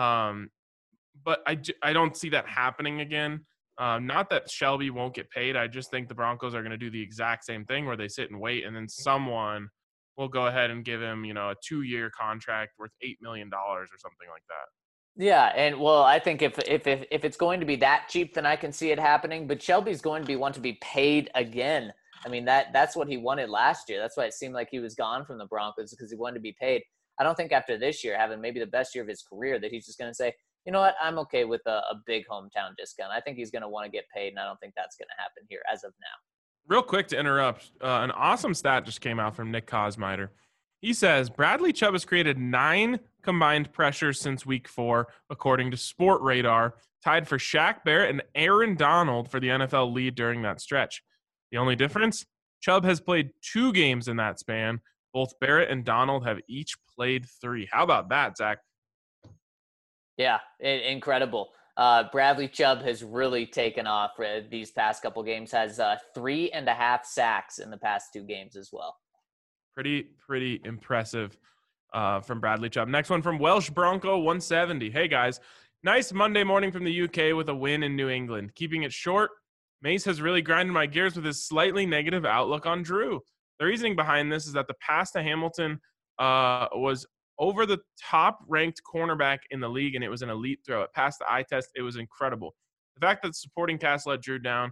But I don't see that happening again. Not that Shelby won't get paid. I just think the Broncos are going to do the exact same thing where they sit and wait, and then someone will go ahead and give him, a 2-year contract worth $8 million or something like that. Yeah, and well, I think if it's going to be that cheap, then I can see it happening. But Shelby's going to want to be paid again. I mean, that's what he wanted last year. That's why it seemed like he was gone from the Broncos, because he wanted to be paid. I don't think after this year, having maybe the best year of his career, that he's just going to say, you know what, I'm okay with a big hometown discount. I think he's going to want to get paid, and I don't think that's going to happen here as of now. Real quick to interrupt, an awesome stat just came out from Nick Kosmider. He says Bradley Chubb has created 9 combined pressures since week 4, according to Sport Radar, tied for Shaq Barrett and Aaron Donald for the NFL lead during that stretch. The only difference? Chubb has played 2 games in that span. Both Barrett and Donald have each played 3. How about that, Zach? Yeah, incredible. Bradley Chubb has really taken off these past couple games, has 3.5 sacks in the past 2 games as well. Pretty impressive from Bradley Chubb. Next one from Welsh Bronco 170. Hey, guys. Nice Monday morning from the UK with a win in New England. Keeping it short, Mace has really grinded my gears with his slightly negative outlook on Drew. The reasoning behind this is that the pass to Hamilton was over the top-ranked cornerback in the league, and it was an elite throw. It passed the eye test. It was incredible. The fact that the supporting cast let Drew down,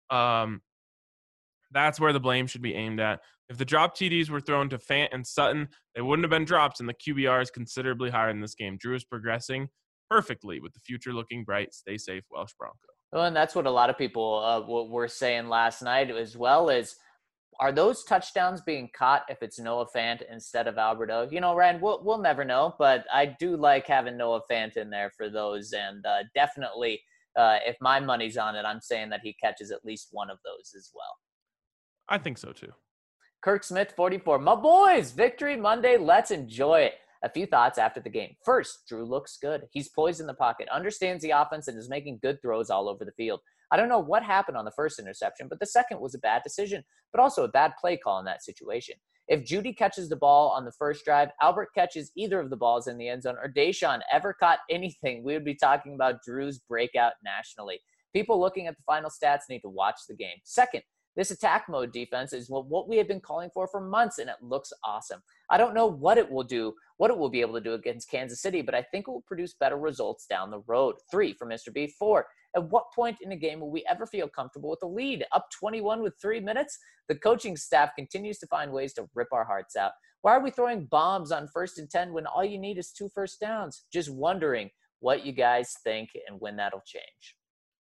that's where the blame should be aimed at. If the drop TDs were thrown to Fant and Sutton, they wouldn't have been drops, and the QBR is considerably higher in this game. Drew is progressing perfectly with the future looking bright. Stay safe, Welsh Bronco. Well, and that's what a lot of people were saying last night as well, is are those touchdowns being caught if it's Noah Fant instead of Albert O? Ryan, we'll never know, but I do like having Noah Fant in there for those, and definitely if my money's on it, I'm saying that he catches at least one of those as well. I think so too. Kirk Smith, 44. My boys, victory Monday. Let's enjoy it. A few thoughts after the game. First, Drew looks good. He's poised in the pocket, understands the offense, and is making good throws all over the field. I don't know what happened on the first interception, but the second was a bad decision, but also a bad play call in that situation. If Judy catches the ball on the first drive, Albert catches either of the balls in the end zone, or Deshaun ever caught anything, we would be talking about Drew's breakout nationally. People looking at the final stats need to watch the game. Second, this attack mode defense is what we have been calling for months, and it looks awesome. I don't know what it will be able to do against Kansas City, but I think it will produce better results down the road. 3 for Mr. B. 4, at what point in a game will we ever feel comfortable with the lead? Up 21 with 3 minutes? The coaching staff continues to find ways to rip our hearts out. Why are we throwing bombs on 1st and 10 when all you need is 2 first downs? Just wondering what you guys think and when that'll change.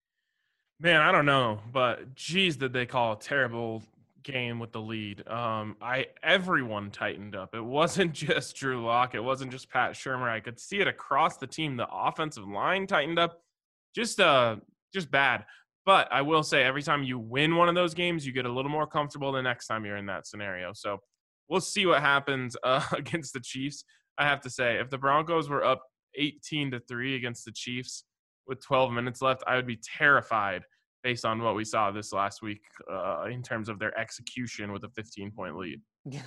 Man, I don't know, but geez, did they call a terrible game with the lead. Everyone tightened up. It wasn't just Drew Lock. It wasn't just Pat Shurmur. I could see it across the team. The offensive line tightened up. Just bad. But I will say, every time you win one of those games, you get a little more comfortable the next time you're in that scenario. So we'll see what happens against the Chiefs. I have to say, if the Broncos were up 18-3 against the Chiefs with 12 minutes left, I would be terrified based on what we saw this last week in terms of their execution with a 15-point lead.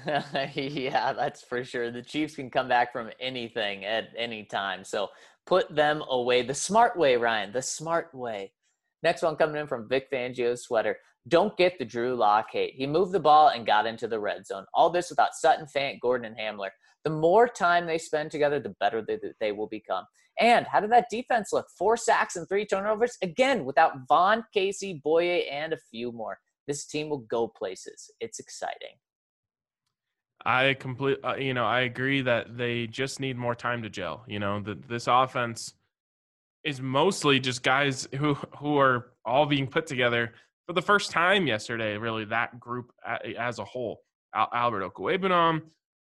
Yeah, that's for sure. The Chiefs can come back from anything at any time. So put them away the smart way, Ryan, the smart way. Next one coming in from Vic Fangio's sweater. Don't get the Drew Lock hate. He moved the ball and got into the red zone. All this without Sutton, Fant, Gordon, and Hamler. The more time they spend together, the better they will become. And how did that defense look? 4 sacks and 3 turnovers? Again, without Vaughn, Casey, Boye, and a few more. This team will go places. It's exciting. I agree that they just need more time to gel. This offense is mostly just guys who are all being put together for the first time yesterday, really that group as a whole. Albert Okwuegbunam,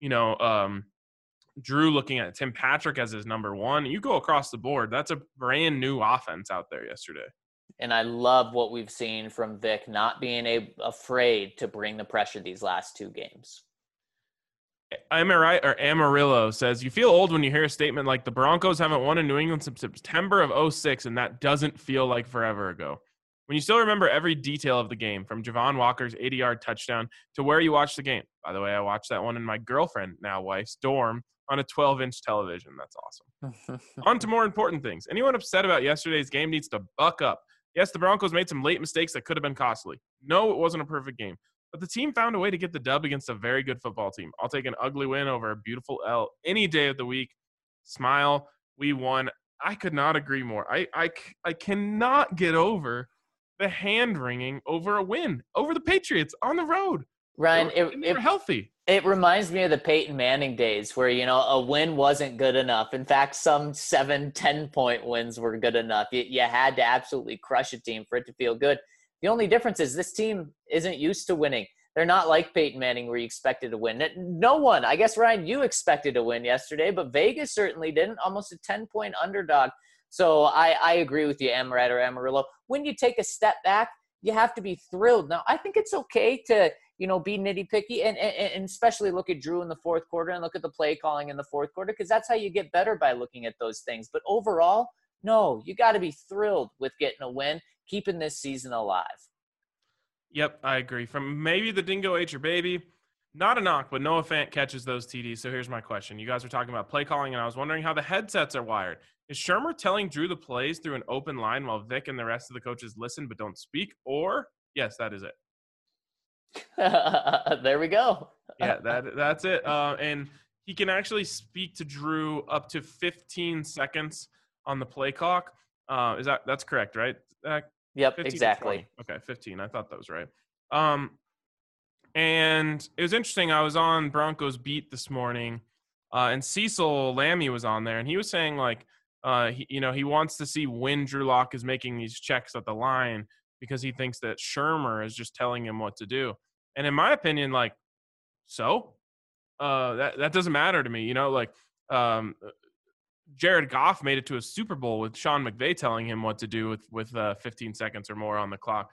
Drew looking at Tim Patrick as his number one. You go across the board. That's a brand new offense out there yesterday. And I love what we've seen from Vic not being afraid to bring the pressure these last 2 games. Am I right? Or Amarillo says, you feel old when you hear a statement like the Broncos haven't won in New England since September of 2006, and that doesn't feel like forever ago. When you still remember every detail of the game, from Javon Walker's 80-yard touchdown to where you watched the game. By the way, I watched that one in my girlfriend, now wife's dorm, on a 12-inch television. That's awesome. On to more important things. Anyone upset about yesterday's game needs to buck up. Yes, the Broncos made some late mistakes that could have been costly. No, it wasn't a perfect game. But the team found a way to get the dub against a very good football team. I'll take an ugly win over a beautiful L any day of the week. Smile. We won. I could not agree more. I cannot get over the hand-wringing over a win, over the Patriots on the road. Ryan, they were healthy. It reminds me of the Peyton Manning days where, a win wasn't good enough. In fact, some 7-10-point wins were good enough. You had to absolutely crush a team for it to feel good. The only difference is this team isn't used to winning. They're not like Peyton Manning where you expected to win. No one, I guess, Ryan, you expected to win yesterday, but Vegas certainly didn't. Almost a 10-point underdog. So I agree with you, Amaret or Amarillo. When you take a step back, you have to be thrilled. Now, I think it's okay to, be nitty-picky and especially look at Drew in the fourth quarter and look at the play calling in the fourth quarter, because that's how you get better, by looking at those things. But overall, no, you got to be thrilled with getting a win, keeping this season alive. Yep, I agree. From maybe the Dingo ate your baby, not a knock, but Noah Fant catches those TDs. So here's my question. You guys were talking about play calling, and I was wondering how the headsets are wired. Is Shurmur telling Drew the plays through an open line while Vic and the rest of the coaches listen but don't speak? Or, yes, that is it. There we go. Yeah, that's it. And he can actually speak to Drew up to 15 seconds on the play clock. That's correct, right? Yep, exactly. Okay, 15. I thought that was right. And it was interesting. I was on Broncos Beat this morning, and Cecil Lammy was on there, and he was saying he wants to see when Drew Lock is making these checks at the line because he thinks that Shurmur is just telling him what to do. And in my opinion, that doesn't matter to me. Jared Goff made it to a Super Bowl with Sean McVay telling him what to do with 15 seconds or more on the clock.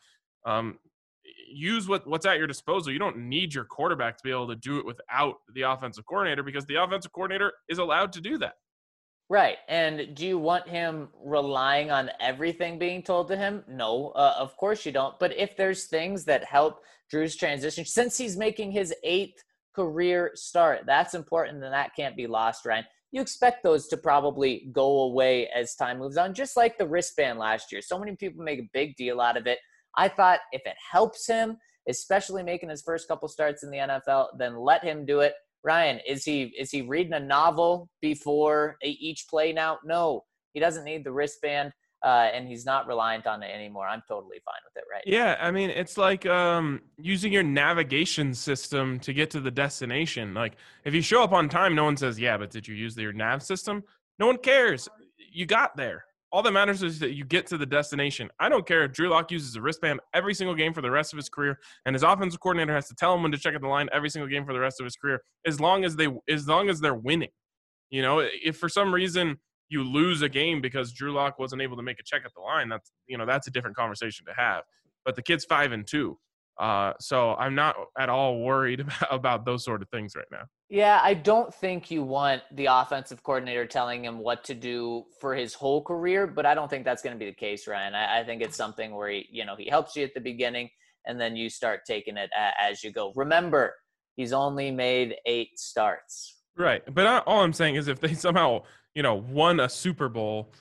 Use what's at your disposal. You don't need your quarterback to be able to do it without the offensive coordinator, because the offensive coordinator is allowed to do that. Right. And do you want him relying on everything being told to him? No, of course you don't. But if there's things that help Drew's transition, since he's making his 8th career start, that's important, and that can't be lost, Ryan. You expect those to probably go away as time moves on, just like the wristband last year. So many people make a big deal out of it. I thought if it helps him, especially making his first couple starts in the NFL, then let him do it. Ryan, is he reading a novel before each play now? No, he doesn't need the wristband, and he's not reliant on it anymore. I'm totally fine with it right now. Yeah, I mean, it's like using your navigation system to get to the destination. Like, if you show up on time, no one says, yeah, but did you use your nav system? No one cares. You got there. All that matters is that you get to the destination. I don't care if Drew Lock uses a wristband every single game for the rest of his career, and his offensive coordinator has to tell him when to check at the line every single game for the rest of his career, as long as they're winning. If for some reason you lose a game because Drew Lock wasn't able to make a check at the line, that's a different conversation to have. But the kid's 5-2. So I'm not at all worried about those sort of things right now. Yeah, I don't think you want the offensive coordinator telling him what to do for his whole career, but I don't think that's going to be the case, Ryan. I think it's something where he helps you at the beginning, and then you start taking it as you go. Remember, he's only made 8 starts. Right, but all I'm saying is if they somehow won a Super Bowl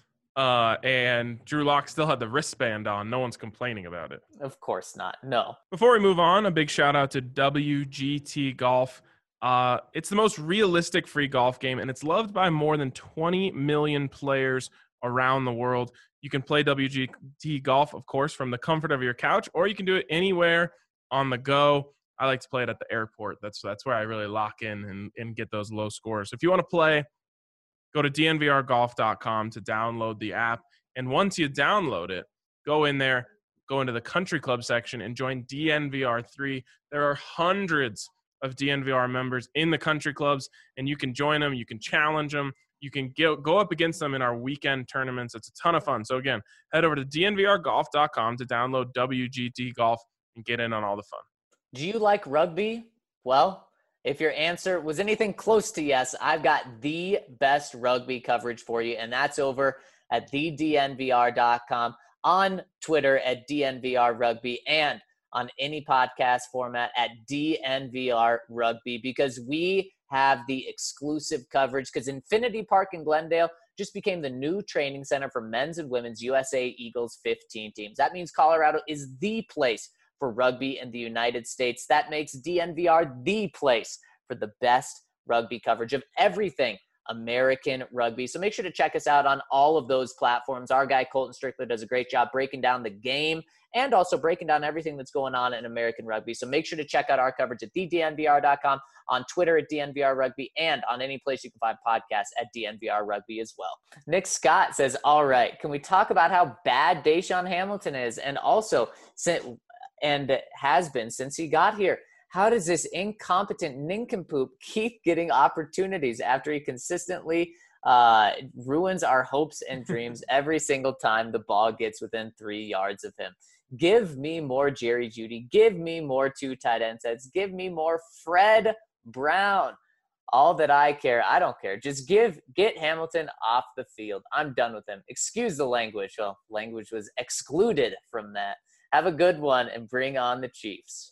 and Drew Lock still had the wristband on, no one's complaining about it. Of course not. No. Before we move on, a big shout out to WGT Golf. It's the most realistic free golf game, and it's loved by more than 20 million players around the world. You can play WGT Golf, of course, from the comfort of your couch, or you can do it anywhere on the go. I like to play it at the airport. That's where I really lock in and get those low scores. If you want to play, go to dnvrgolf.com to download the app. And once you download it, go in there, go into the country club section and join DNVR3. There are hundreds of DNVR members in the country clubs, and you can join them. You can challenge them. You can go up against them in our weekend tournaments. It's a ton of fun. So again, head over to dnvrgolf.com to download WGT Golf and get in on all the fun. Do you like rugby? Well, if your answer was anything close to yes, I've got the best rugby coverage for you, and that's over at thednvr.com, on Twitter at DNVR Rugby, and on any podcast format at DNVR Rugby, because we have the exclusive coverage, because Infinity Park in Glendale just became the new training center for men's and women's USA Eagles 15 teams. That means Colorado is the place for rugby in the United States. That makes DNVR the place for the best rugby coverage of everything American rugby. So make sure to check us out on all of those platforms. Our guy Colton Strickler does a great job breaking down the game and also breaking down everything that's going on in American rugby. So make sure to check out our coverage at thednvr.com, on Twitter at DNVR Rugby, and on any place you can find podcasts at DNVR Rugby as well. Nick Scott says, all right, can we talk about how bad DaeSean Hamilton is? And also, and has been since he got here, how does this incompetent nincompoop keep getting opportunities after he consistently ruins our hopes and dreams every single time the ball gets within 3 yards of him? Give me more Jerry Jeudy. Give me more 2 tight end sets. Give me more Fred Brown. All that I care. I don't care. Just get Hamilton off the field. I'm done with him. Excuse the language. Well, language was excluded from that. Have a good one and bring on the Chiefs.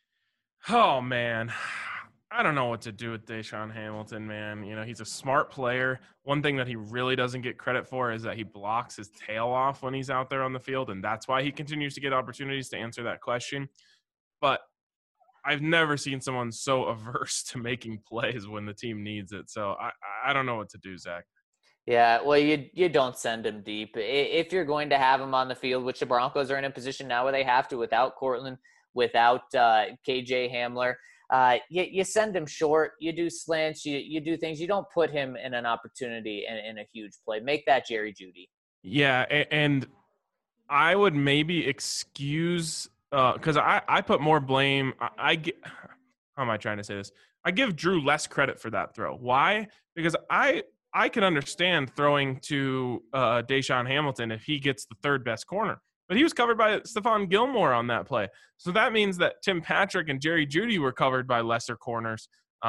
Oh, man. I don't know what to do with DaeSean Hamilton, man. You know, he's a smart player. One thing that he really doesn't get credit for is that he blocks his tail off when he's out there on the field, and that's why he continues to get opportunities to answer that question. But I've never seen someone so averse to making plays when the team needs it. So I don't know what to do, Zach. Yeah, well, you don't send him deep. If you're going to have him on the field, which the Broncos are in a position now where they have to without Cortland, without KJ Hamler, you send him short, you do slants, you do things. You don't put him in an opportunity in a huge play. Make that Jerry Jeudy. Yeah, and I would maybe excuse because I put more blame. How am I trying to say this? I give Drew less credit for that throw. Why? Because I can understand throwing to DaeSean Hamilton if he gets the third best corner. But he was covered by Stephon Gilmore on that play. So that means that Tim Patrick and Jerry Jeudy were covered by lesser corners.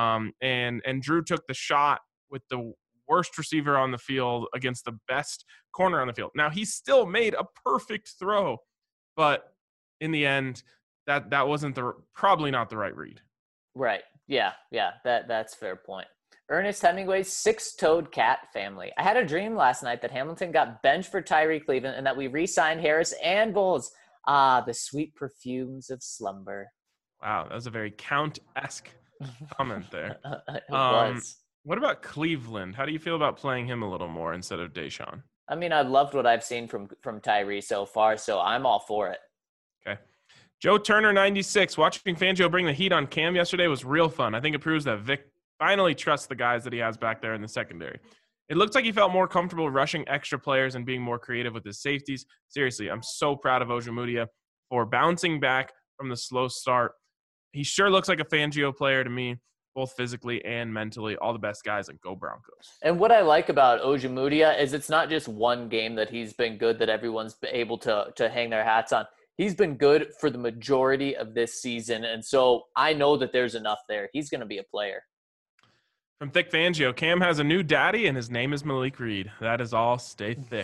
And Drew took the shot with the worst receiver on the field against the best corner on the field. Now, he still made a perfect throw. But in the end, that wasn't probably not the right read. Right. Yeah. That's a fair point. Ernest Hemingway's 6-toed cat family. I had a dream last night that Hamilton got benched for Tyree Cleveland and that we re-signed Harris and Bowles. Ah, the sweet perfumes of slumber. Wow, that was a very Count-esque comment there. It was. What about Cleveland? How do you feel about playing him a little more instead of DaeSean? I mean, I've loved what I've seen from Tyree so far, so I'm all for it. Okay. Joe Turner, 96. Watching Fangio bring the heat on Cam yesterday was real fun. I think it proves that Vic finally trusts the guys that he has back there in the secondary. It looks like he felt more comfortable rushing extra players and being more creative with his safeties. Seriously, I'm so proud of Ojemudia for bouncing back from the slow start. He sure looks like a Fangio player to me, both physically and mentally. All the best guys, and go Broncos. And what I like about Ojemudia is it's not just one game that he's been good that everyone's able to hang their hats on. He's been good for the majority of this season, and so I know that there's enough there. He's going to be a player. From Thick Fangio, Cam has a new daddy, and his name is Malik Reed. That is all. Stay thick.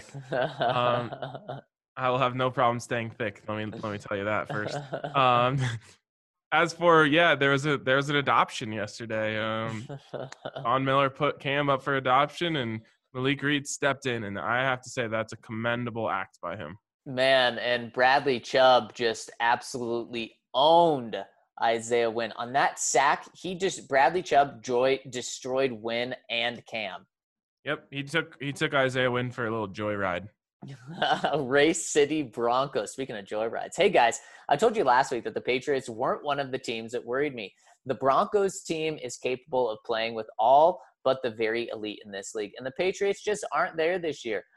I will have no problem staying thick. Let me tell you that first. As for there was an adoption yesterday. Von Miller put Cam up for adoption, and Malik Reed stepped in, and I have to say that's a commendable act by him. Man, and Bradley Chubb just absolutely owned Isaiah Wynn. On that sack, Bradley Chubb destroyed Wynn and Cam. Yep, he took Isaiah Wynn for a little joyride. Race City Broncos. Speaking of joyrides. Hey, guys, I told you last week that the Patriots weren't one of the teams that worried me. The Broncos team is capable of playing with all but the very elite in this league, and the Patriots just aren't there this year.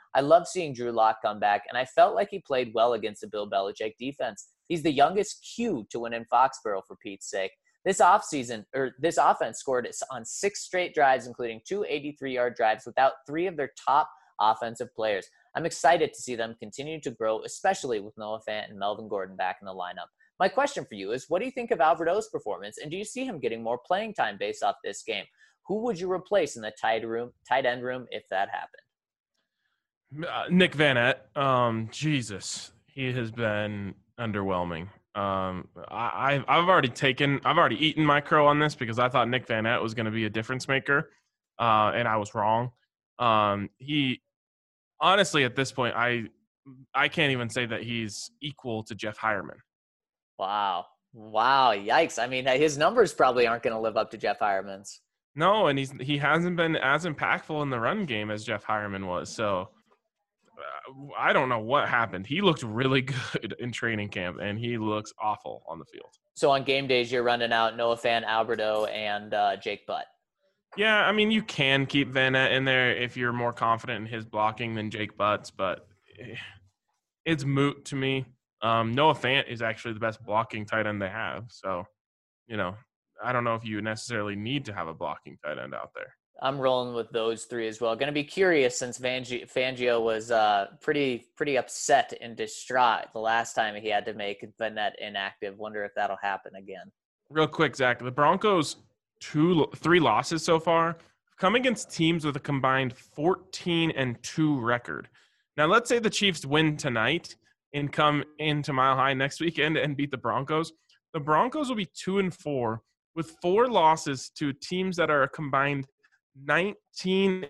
I love seeing Drew Lock come back, and I felt like he played well against the Bill Belichick defense. He's the youngest Q to win in Foxborough, for Pete's sake. This offense scored on 6 straight drives, including 2 83-yard drives without 3 of their top offensive players. I'm excited to see them continue to grow, especially with Noah Fant and Melvin Gordon back in the lineup. My question for you is, what do you think of Albert O's performance, and do you see him getting more playing time based off this game? Who would you replace in the tight end room if that happened? Nick Vannett. Jesus, he has been underwhelming. I've already eaten my crow on this because I thought Nick Vannett was going to be a difference maker, and I was wrong. He honestly, at this point, I can't even say that he's equal to Jeff Hireman. Wow, yikes! I mean, his numbers probably aren't going to live up to Jeff Hireman's. No, and he hasn't been as impactful in the run game as Jeff Hireman was. So I don't know what happened. He looked really good in training camp, and he looks awful on the field. So on game days, you're running out Noah Fant, Albert O, and Jake Butt. Yeah, I mean, you can keep Vannett in there if you're more confident in his blocking than Jake Butts, but it's moot to me. Noah Fant is actually the best blocking tight end they have. So, I don't know if you necessarily need to have a blocking tight end out there. I'm rolling with those 3 as well. Going to be curious since Fangio was pretty upset and distraught the last time he had to make Vannett inactive. Wonder if that'll happen again. Real quick, Zach, the Broncos' 3 losses so far come against teams with a combined 14-2 record. Now, let's say the Chiefs win tonight and come into Mile High next weekend and beat the Broncos. The Broncos will be 2-4 with 4 losses to teams that are a combined 19-3.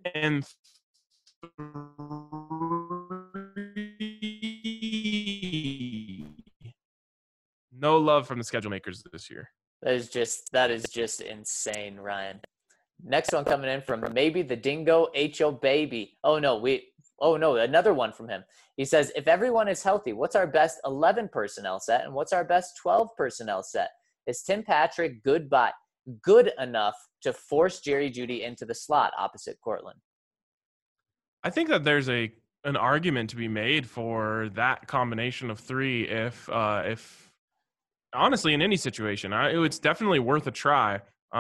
No love from the schedule makers this year. That is just insane, Ryan. Next one coming in from maybe the Dingo H.O. Baby. Oh no, another one from him. He says, if everyone is healthy, what's our best 11 personnel set and what's our best 12 personnel set? Is Tim Patrick good enough to force Jerry Jeudy into the slot opposite Courtland? I think that there's an argument to be made for that combination of 3 if honestly in any situation. It's definitely worth a try.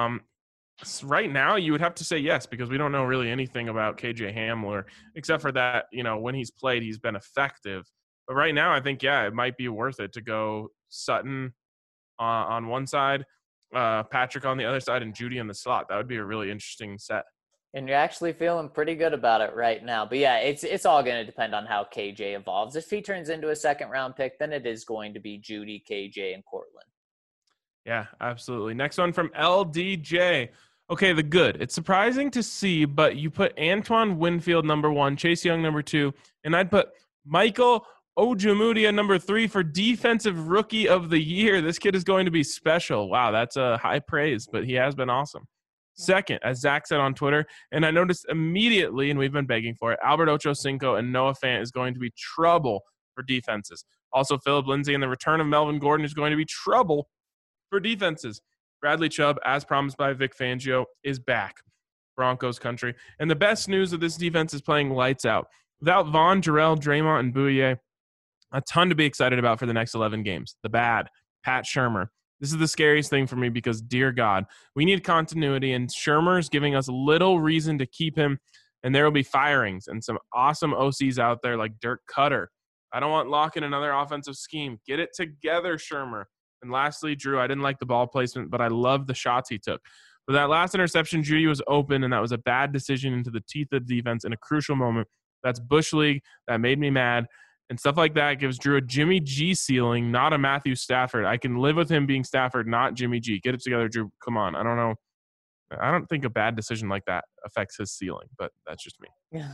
Right now, you would have to say yes because we don't know really anything about KJ Hamler except for that, when he's played, he's been effective. But right now, I think, it might be worth it to go Sutton on one side, Patrick on the other side, and Jeudy in the slot. That would be a really interesting set. And you're actually feeling pretty good about it right now. But yeah, it's all going to depend on how KJ evolves. If he turns into a 2nd-round pick, then it is going to be Jeudy, KJ, and Courtland. Yeah, absolutely. Next one from LDJ. Okay, the good. It's surprising to see, but you put Antoine Winfield number 1, Chase Young number 2, and I'd put Michael Ojemudia number 3 for Defensive Rookie of the Year. This kid is going to be special. Wow, that's a high praise, but he has been awesome. Second, as Zach said on Twitter, and I noticed immediately, and we've been begging for it, Albert Ochocinco and Noah Fant is going to be trouble for defenses. Also, Phillip Lindsay and the return of Melvin Gordon is going to be trouble for defenses. Bradley Chubb, as promised by Vic Fangio, is back. Broncos country. And the best news of this defense is playing lights out. Without Vaughn, Jarrell, Draymond, and Bouye, a ton to be excited about for the next 11 games. The bad, Pat Shurmur. This is the scariest thing for me because, dear God, we need continuity, and Shurmur's giving us little reason to keep him, and there will be firings and some awesome OCs out there like Dirk Cutter. I don't want Locke in another offensive scheme. Get it together, Shurmur. And lastly, Drew, I didn't like the ball placement, but I love the shots he took. But that last interception, Jeudy was open, and that was a bad decision into the teeth of the defense in a crucial moment. That's Bush League. That made me mad. And stuff like that gives Drew a Jimmy G ceiling, not a Matthew Stafford. I can live with him being Stafford, not Jimmy G. Get it together, Drew. Come on. I don't know. I don't think a bad decision like that affects his ceiling, but that's just me.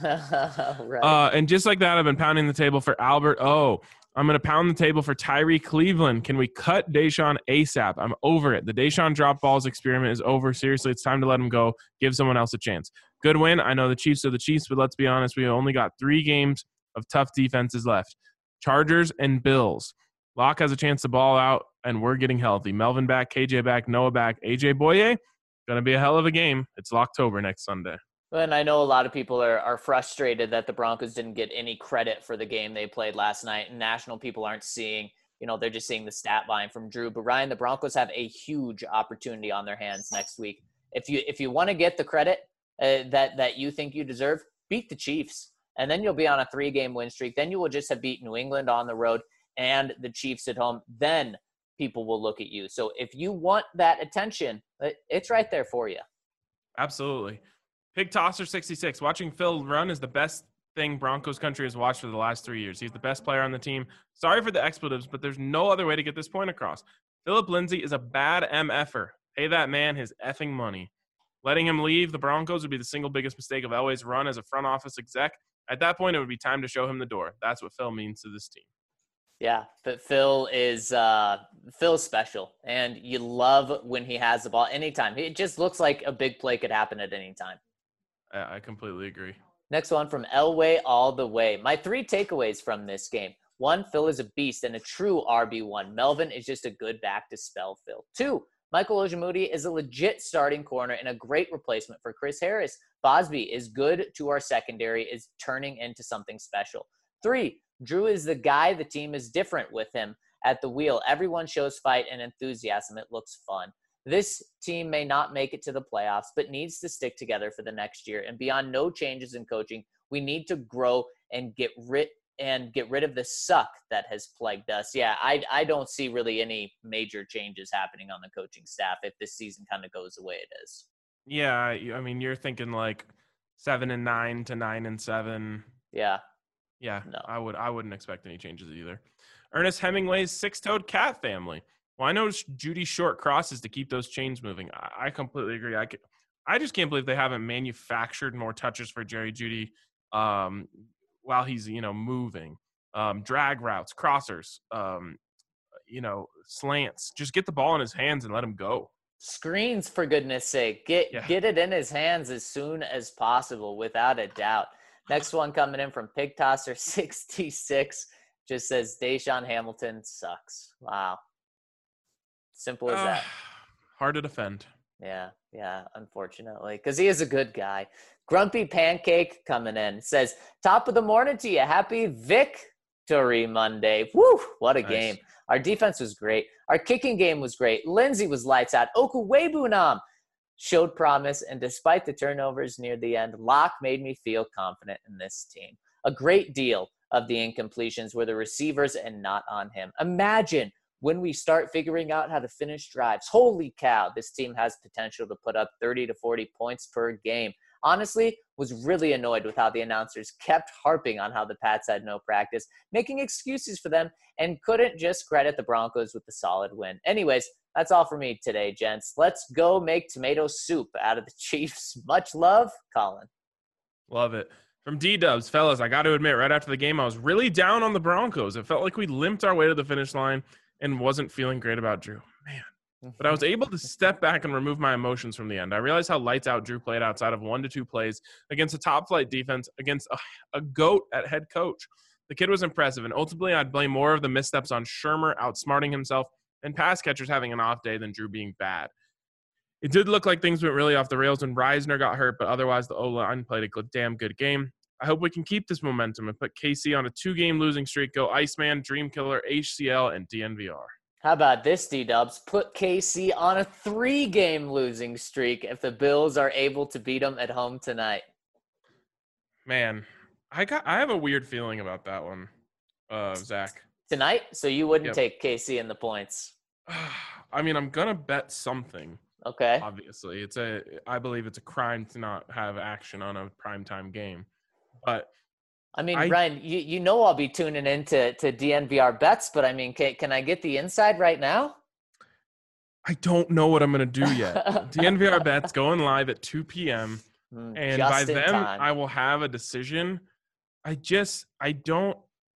Right. And just like that, I've been pounding the table for Albert O. I'm going to pound the table for Tyree Cleveland. Can we cut Deshaun ASAP? I'm over it. The Deshaun drop balls experiment is over. Seriously, it's time to let him go. Give someone else a chance. Good win. I know the Chiefs are the Chiefs, but let's be honest. We only got 3 games of tough defenses left. Chargers and Bills. Locke has a chance to ball out, and we're getting healthy. Melvin back, KJ back, Noah back, AJ Boye. Going to be a hell of a game. It's Locktober next Sunday. And I know a lot of people are frustrated that the Broncos didn't get any credit for the game they played last night, and national people aren't seeing, they're just seeing the stat line from Drew. But Ryan, the Broncos have a huge opportunity on their hands next week. If you want to get the credit that you think you deserve, beat the Chiefs, and then you'll be on a 3-game win streak. Then you will just have beat New England on the road and the Chiefs at home. Then people will look at you. So if you want that attention, it's right there for you. Absolutely. Pig Tosser 66. Watching Phil run is the best thing Broncos country has watched for the last 3 years. He's the best player on the team. Sorry for the expletives, but there's no other way to get this point across. Philip Lindsay is a bad MFer. Pay that man his effing money. Letting him leave the Broncos would be the single biggest mistake of Elway's run as a front office exec. At that point, it would be time to show him the door. That's what Phil means to this team. Yeah, but Phil's special, and you love when he has the ball anytime. It just looks like a big play could happen at any time. I completely agree. Next one from Elway all the way. My 3 takeaways from this game. 1, Phil is a beast and a true RB1. Melvin is just a good back to spell Phil. 2, Michael Ojemudia is a legit starting corner and a great replacement for Chris Harris. Bosby is good to our secondary, is turning into something special. 3, Drew is the guy. The team is different with him at the wheel. Everyone shows fight and enthusiasm. It looks fun. This team may not make it to the playoffs, but needs to stick together for the next year. And beyond no changes in coaching, we need to grow and get rid of the suck that has plagued us. Yeah, I don't see really any major changes happening on the coaching staff if this season kind of goes the way it is. Yeah, I mean, you're thinking like 7-9 to 9-7. Yeah. Yeah, no. I wouldn't expect any changes either. Ernest Hemingway's 6-toed cat family. Well, I know Judy short crosses to keep those chains moving. I completely agree. I just can't believe they haven't manufactured more touches for Jerry Jeudy while he's, moving. Drag routes, crossers, slants. Just get the ball in his hands and let him go. Screens, for goodness sake. Get it in his hands as soon as possible, without a doubt. Next one coming in from Pig Tosser 66 just says Deshaun Hamilton sucks. Wow. Simple as that. Hard to defend. Yeah, unfortunately, because he is a good guy. Grumpy Pancake coming in says, top of the morning to you. Happy Victory Monday. Woo, what a game. Our defense was great. Our kicking game was great. Lindsay was lights out. Okuwebunam showed promise, and despite the turnovers near the end, Locke made me feel confident in this team. A great deal of the incompletions were the receivers and not on him. Imagine when we start figuring out how to finish drives. Holy cow, this team has potential to put up 30 to 40 points per game. Honestly, was really annoyed with how the announcers kept harping on how the Pats had no practice, making excuses for them, and couldn't just credit the Broncos with the solid win. Anyways, that's all for me today, gents. Let's go make tomato soup out of the Chiefs. Much love, Colin. Love it. From D-Dubs, fellas, I got to admit, right after the game, I was really down on the Broncos. It felt like we limped our way to the finish line and wasn't feeling great about Drew. Man. But I was able to step back and remove my emotions from the end. I realized how lights out Drew played outside of 1 to 2 plays against a top-flight defense, against a GOAT at head coach. The kid was impressive, and ultimately I'd blame more of the missteps on Shermer outsmarting himself and pass catchers having an off day than Drew being bad. It did look like things went really off the rails when Reisner got hurt, but otherwise the O-line played a damn good game. I hope we can keep this momentum and put KC on a 2-game losing streak, go Iceman, Dream Killer, HCL, and DNVR. How about this, D-Dubs? Put KC on a 3-game losing streak if the Bills are able to beat them at home tonight. Man, I have a weird feeling about that one, Zach. Tonight? So you wouldn't take KC in the points? I mean, I'm gonna bet something. Okay. Obviously, I believe it's a crime to not have action on a primetime game, but. I mean, Ryan, you know I'll be tuning in to DNVR bets, but I mean, can I get the inside right now? I don't know what I'm going to do yet. DNVR bets going live at 2 p.m. And by then I will have a decision. I don't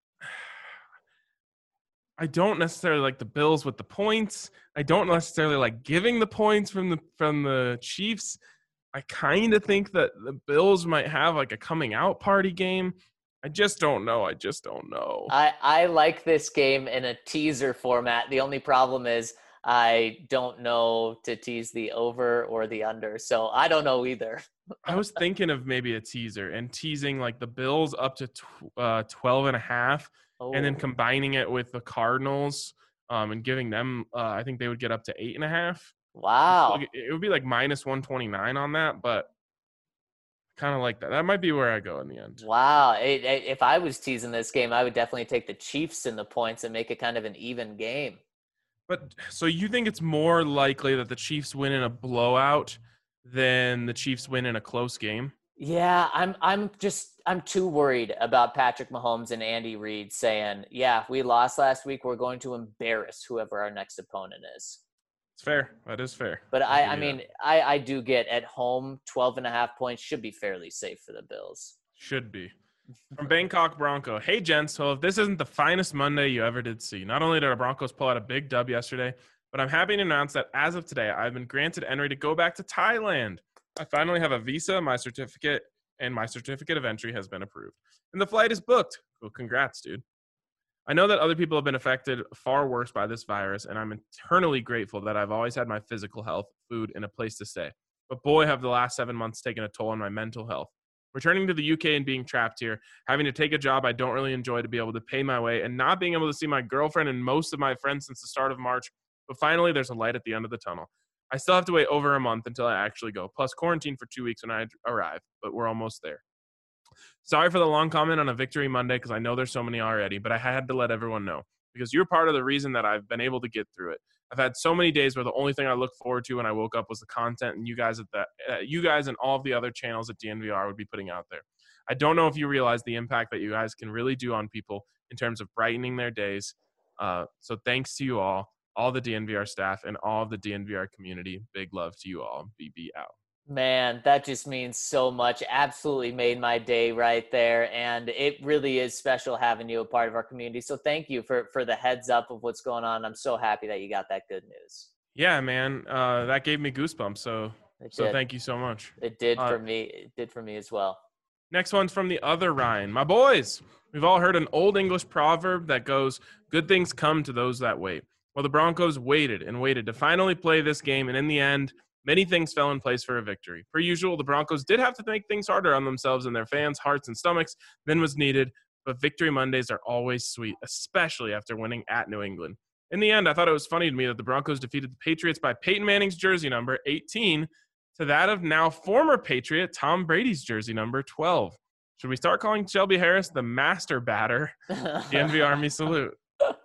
necessarily like the Bills with the points. I don't necessarily like giving the points from the Chiefs. I kind of think that the Bills might have like a coming out party game. I just don't know. I like this game in a teaser format. The only problem is I don't know to tease the over or the under. So I don't know either. I was thinking of maybe a teaser and teasing like the Bills up to 12.5, and then combining it with the Cardinals and giving them, I think they would get up to 8.5. Wow. It would be like minus 129 on that, but kind of like that. That might be where I go in the end. Wow. If I was teasing this game, I would definitely take the Chiefs in the points and make it kind of an even game. But so you think it's more likely that the Chiefs win in a blowout than the Chiefs win in a close game? Yeah, I'm too worried about Patrick Mahomes and Andy Reid saying, yeah, we lost last week. We're going to embarrass whoever our next opponent is. It's fair. That is fair. But I do get at home 12.5 points should be fairly safe for the Bills. Should be. From Bangkok Bronco. Hey, gents. So if this isn't the finest Monday you ever did see, not only did our Broncos pull out a big dub yesterday, but I'm happy to announce that as of today, I've been granted entry to go back to Thailand. I finally have a visa, my certificate of entry has been approved. And the flight is booked. Well, congrats, dude. I know that other people have been affected far worse by this virus, and I'm eternally grateful that I've always had my physical health, food, and a place to stay. But boy, have the last 7 months taken a toll on my mental health. Returning to the UK and being trapped here, having to take a job I don't really enjoy to be able to pay my way, and not being able to see my girlfriend and most of my friends since the start of March. But finally, there's a light at the end of the tunnel. I still have to wait over a month until I actually go, plus quarantine for 2 weeks when I arrive, but we're almost there. Sorry for the long comment on a Victory Monday because I know there's so many already, but I had to let everyone know because you're part of the reason that I've been able to get through it. I've had so many days where the only thing I looked forward to when I woke up was the content and you guys and all of the other channels at DNVR would be putting out there. I don't know if you realize the impact that you guys can really do on people in terms of brightening their days. So thanks to you all the DNVR staff, and all of the DNVR community. Big love to you all. BB out. Man, that just means so much. Absolutely made my day right there. And it really is special having you a part of our community. So thank you for the heads up of what's going on. I'm so happy that you got that good news. Yeah, man. That gave me goosebumps. So thank you so much. It did for me. It did for me as well. Next one's from the other Ryan. My boys, we've all heard an old English proverb that goes, good things come to those that wait. Well, the Broncos waited and waited to finally play this game. And in the end, many things fell in place for a victory. Per usual, the Broncos did have to make things harder on themselves and their fans' hearts and stomachs than was needed, but Victory Mondays are always sweet, especially after winning at New England. In the end, I thought it was funny to me that the Broncos defeated the Patriots by Peyton Manning's jersey number, 18, to that of now former Patriot Tom Brady's jersey number, 12. Should we start calling Shelby Harris the master batter? The Envy Army salute.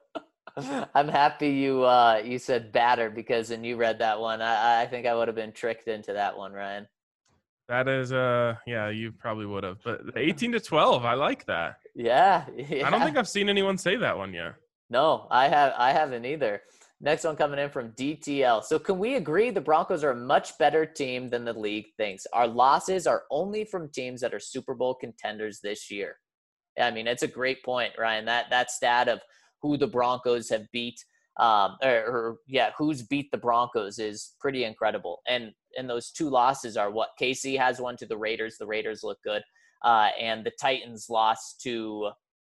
I'm happy you said batter because when you read that one, I think I would have been tricked into that one, Ryan. That is, yeah, you probably would have. But 18-12, I like that. Yeah. I don't think I've seen anyone say that one yet. No, I haven't either. Next one coming in from DTL. So can we agree the Broncos are a much better team than the league thinks? Our losses are only from teams that are Super Bowl contenders this year. I mean, it's a great point, Ryan. That stat of who the Broncos have beat, who's beat the Broncos is pretty incredible. And those two losses are what? KC has one to the Raiders. The Raiders look good. And the Titans lost to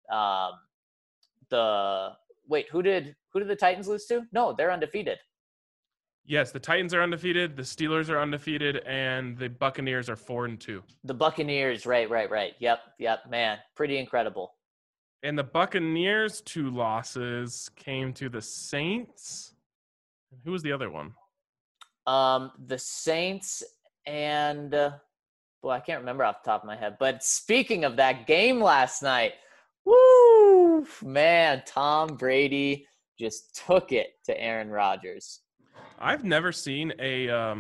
who did the Titans lose to? No, they're undefeated. Yes, the Titans are undefeated, the Steelers are undefeated, and the Buccaneers are 4-2. The Buccaneers, right. Yep, man, pretty incredible. And the Buccaneers' two losses came to the Saints. Who was the other one? The Saints and I can't remember off the top of my head. But speaking of that game last night, woo, man, Tom Brady just took it to Aaron Rodgers. I've never seen a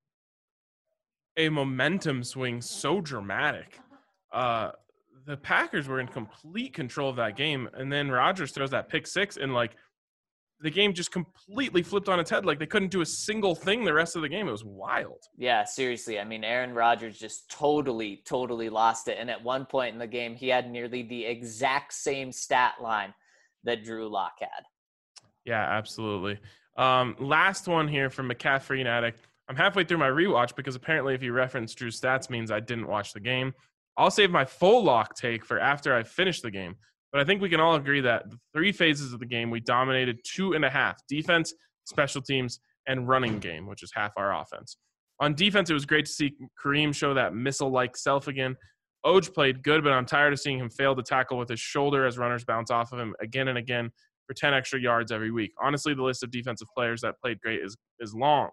momentum swing so dramatic. The Packers were in complete control of that game, and then Rodgers throws that pick six, and the game just completely flipped on its head. They couldn't do a single thing the rest of the game. It was wild. Yeah, seriously. I mean, Aaron Rodgers just totally lost it. And at one point in the game, he had nearly the exact same stat line that Drew Lock had. Yeah, absolutely. Last one here from McCaffrey and Addict. I'm halfway through my rewatch because apparently if you reference Drew's stats means I didn't watch the game. I'll save my full lock take for after I finish the game. But I think we can all agree that the three phases of the game, we dominated 2.5. Defense special teams, and running game, which is half our offense. On defense, it was great to see Kareem show that missile-like self again. Oj played good, but I'm tired of seeing him fail to tackle with his shoulder as runners bounce off of him again and again for 10 extra yards every week. Honestly, the list of defensive players that played great is long.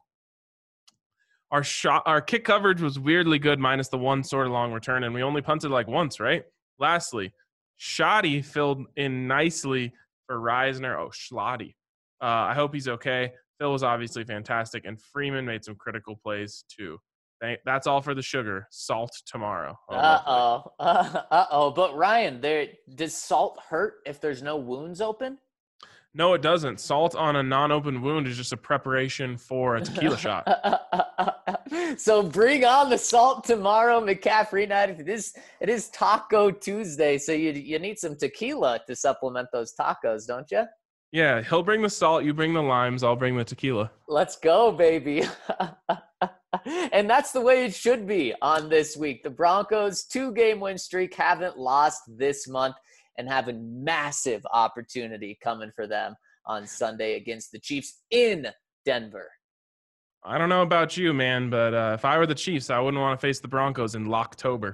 Our kick coverage was weirdly good, minus the one sort of long return, and we only punted like once, right? Lastly, Shoddy filled in nicely for Reisner. Oh, Schlotty. I hope he's okay. Phil was obviously fantastic, and Freeman made some critical plays too. That's all for the sugar. Salt tomorrow. But Ryan, does salt hurt if there's no wounds open? No, it doesn't. Salt on a non-open wound is just a preparation for a tequila shot. So bring on the salt tomorrow, McCaffrey night. It is Taco Tuesday, so you need some tequila to supplement those tacos, don't you? Yeah, he'll bring the salt, you bring the limes, I'll bring the tequila. Let's go, baby. And that's the way it should be on this week. The Broncos, 2-game win streak, haven't lost this month, and have a massive opportunity coming for them on Sunday against the Chiefs in Denver. I don't know about you, man, but if I were the Chiefs, I wouldn't want to face the Broncos in Locktober.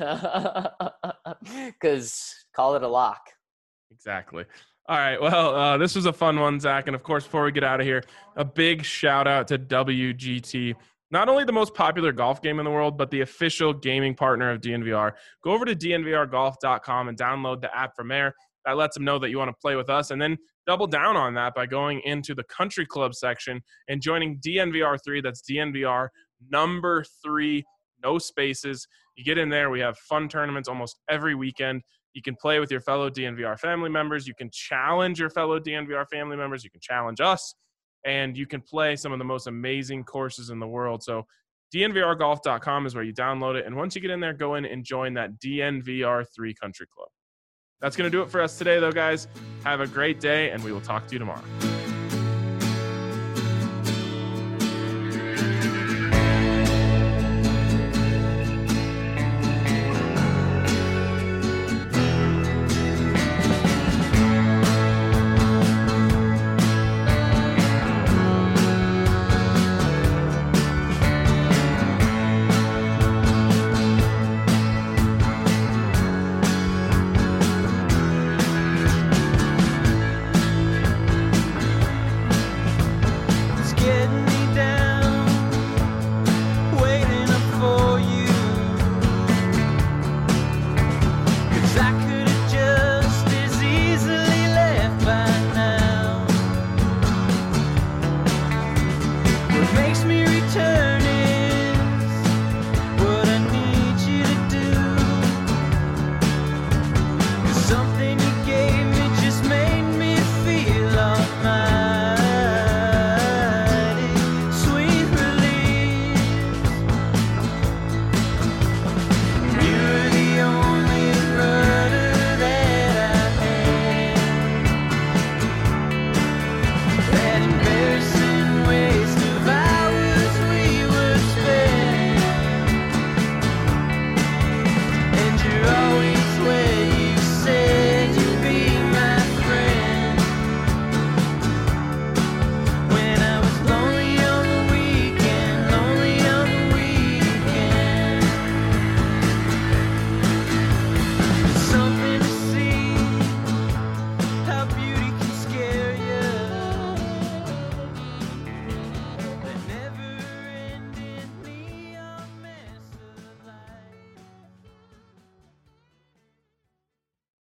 Because call it a lock. Exactly. All right, well, this was a fun one, Zach. And, of course, before we get out of here, a big shout-out to WGT. Not only the most popular golf game in the world, but the official gaming partner of DNVR. Go over to dnvrgolf.com and download the app from there. That lets them know that you want to play with us. And then double down on that by going into the country club section and joining DNVR3. That's DNVR number 3, no spaces. You get in there. We have fun tournaments almost every weekend. You can play with your fellow DNVR family members. You can challenge your fellow DNVR family members. You can challenge us. And you can play some of the most amazing courses in the world. So DNVRgolf.com is where you download it. And once you get in there, go in and join that DNVR3 Country Club. That's going to do it for us today, though, guys. Have a great day, and we will talk to you tomorrow.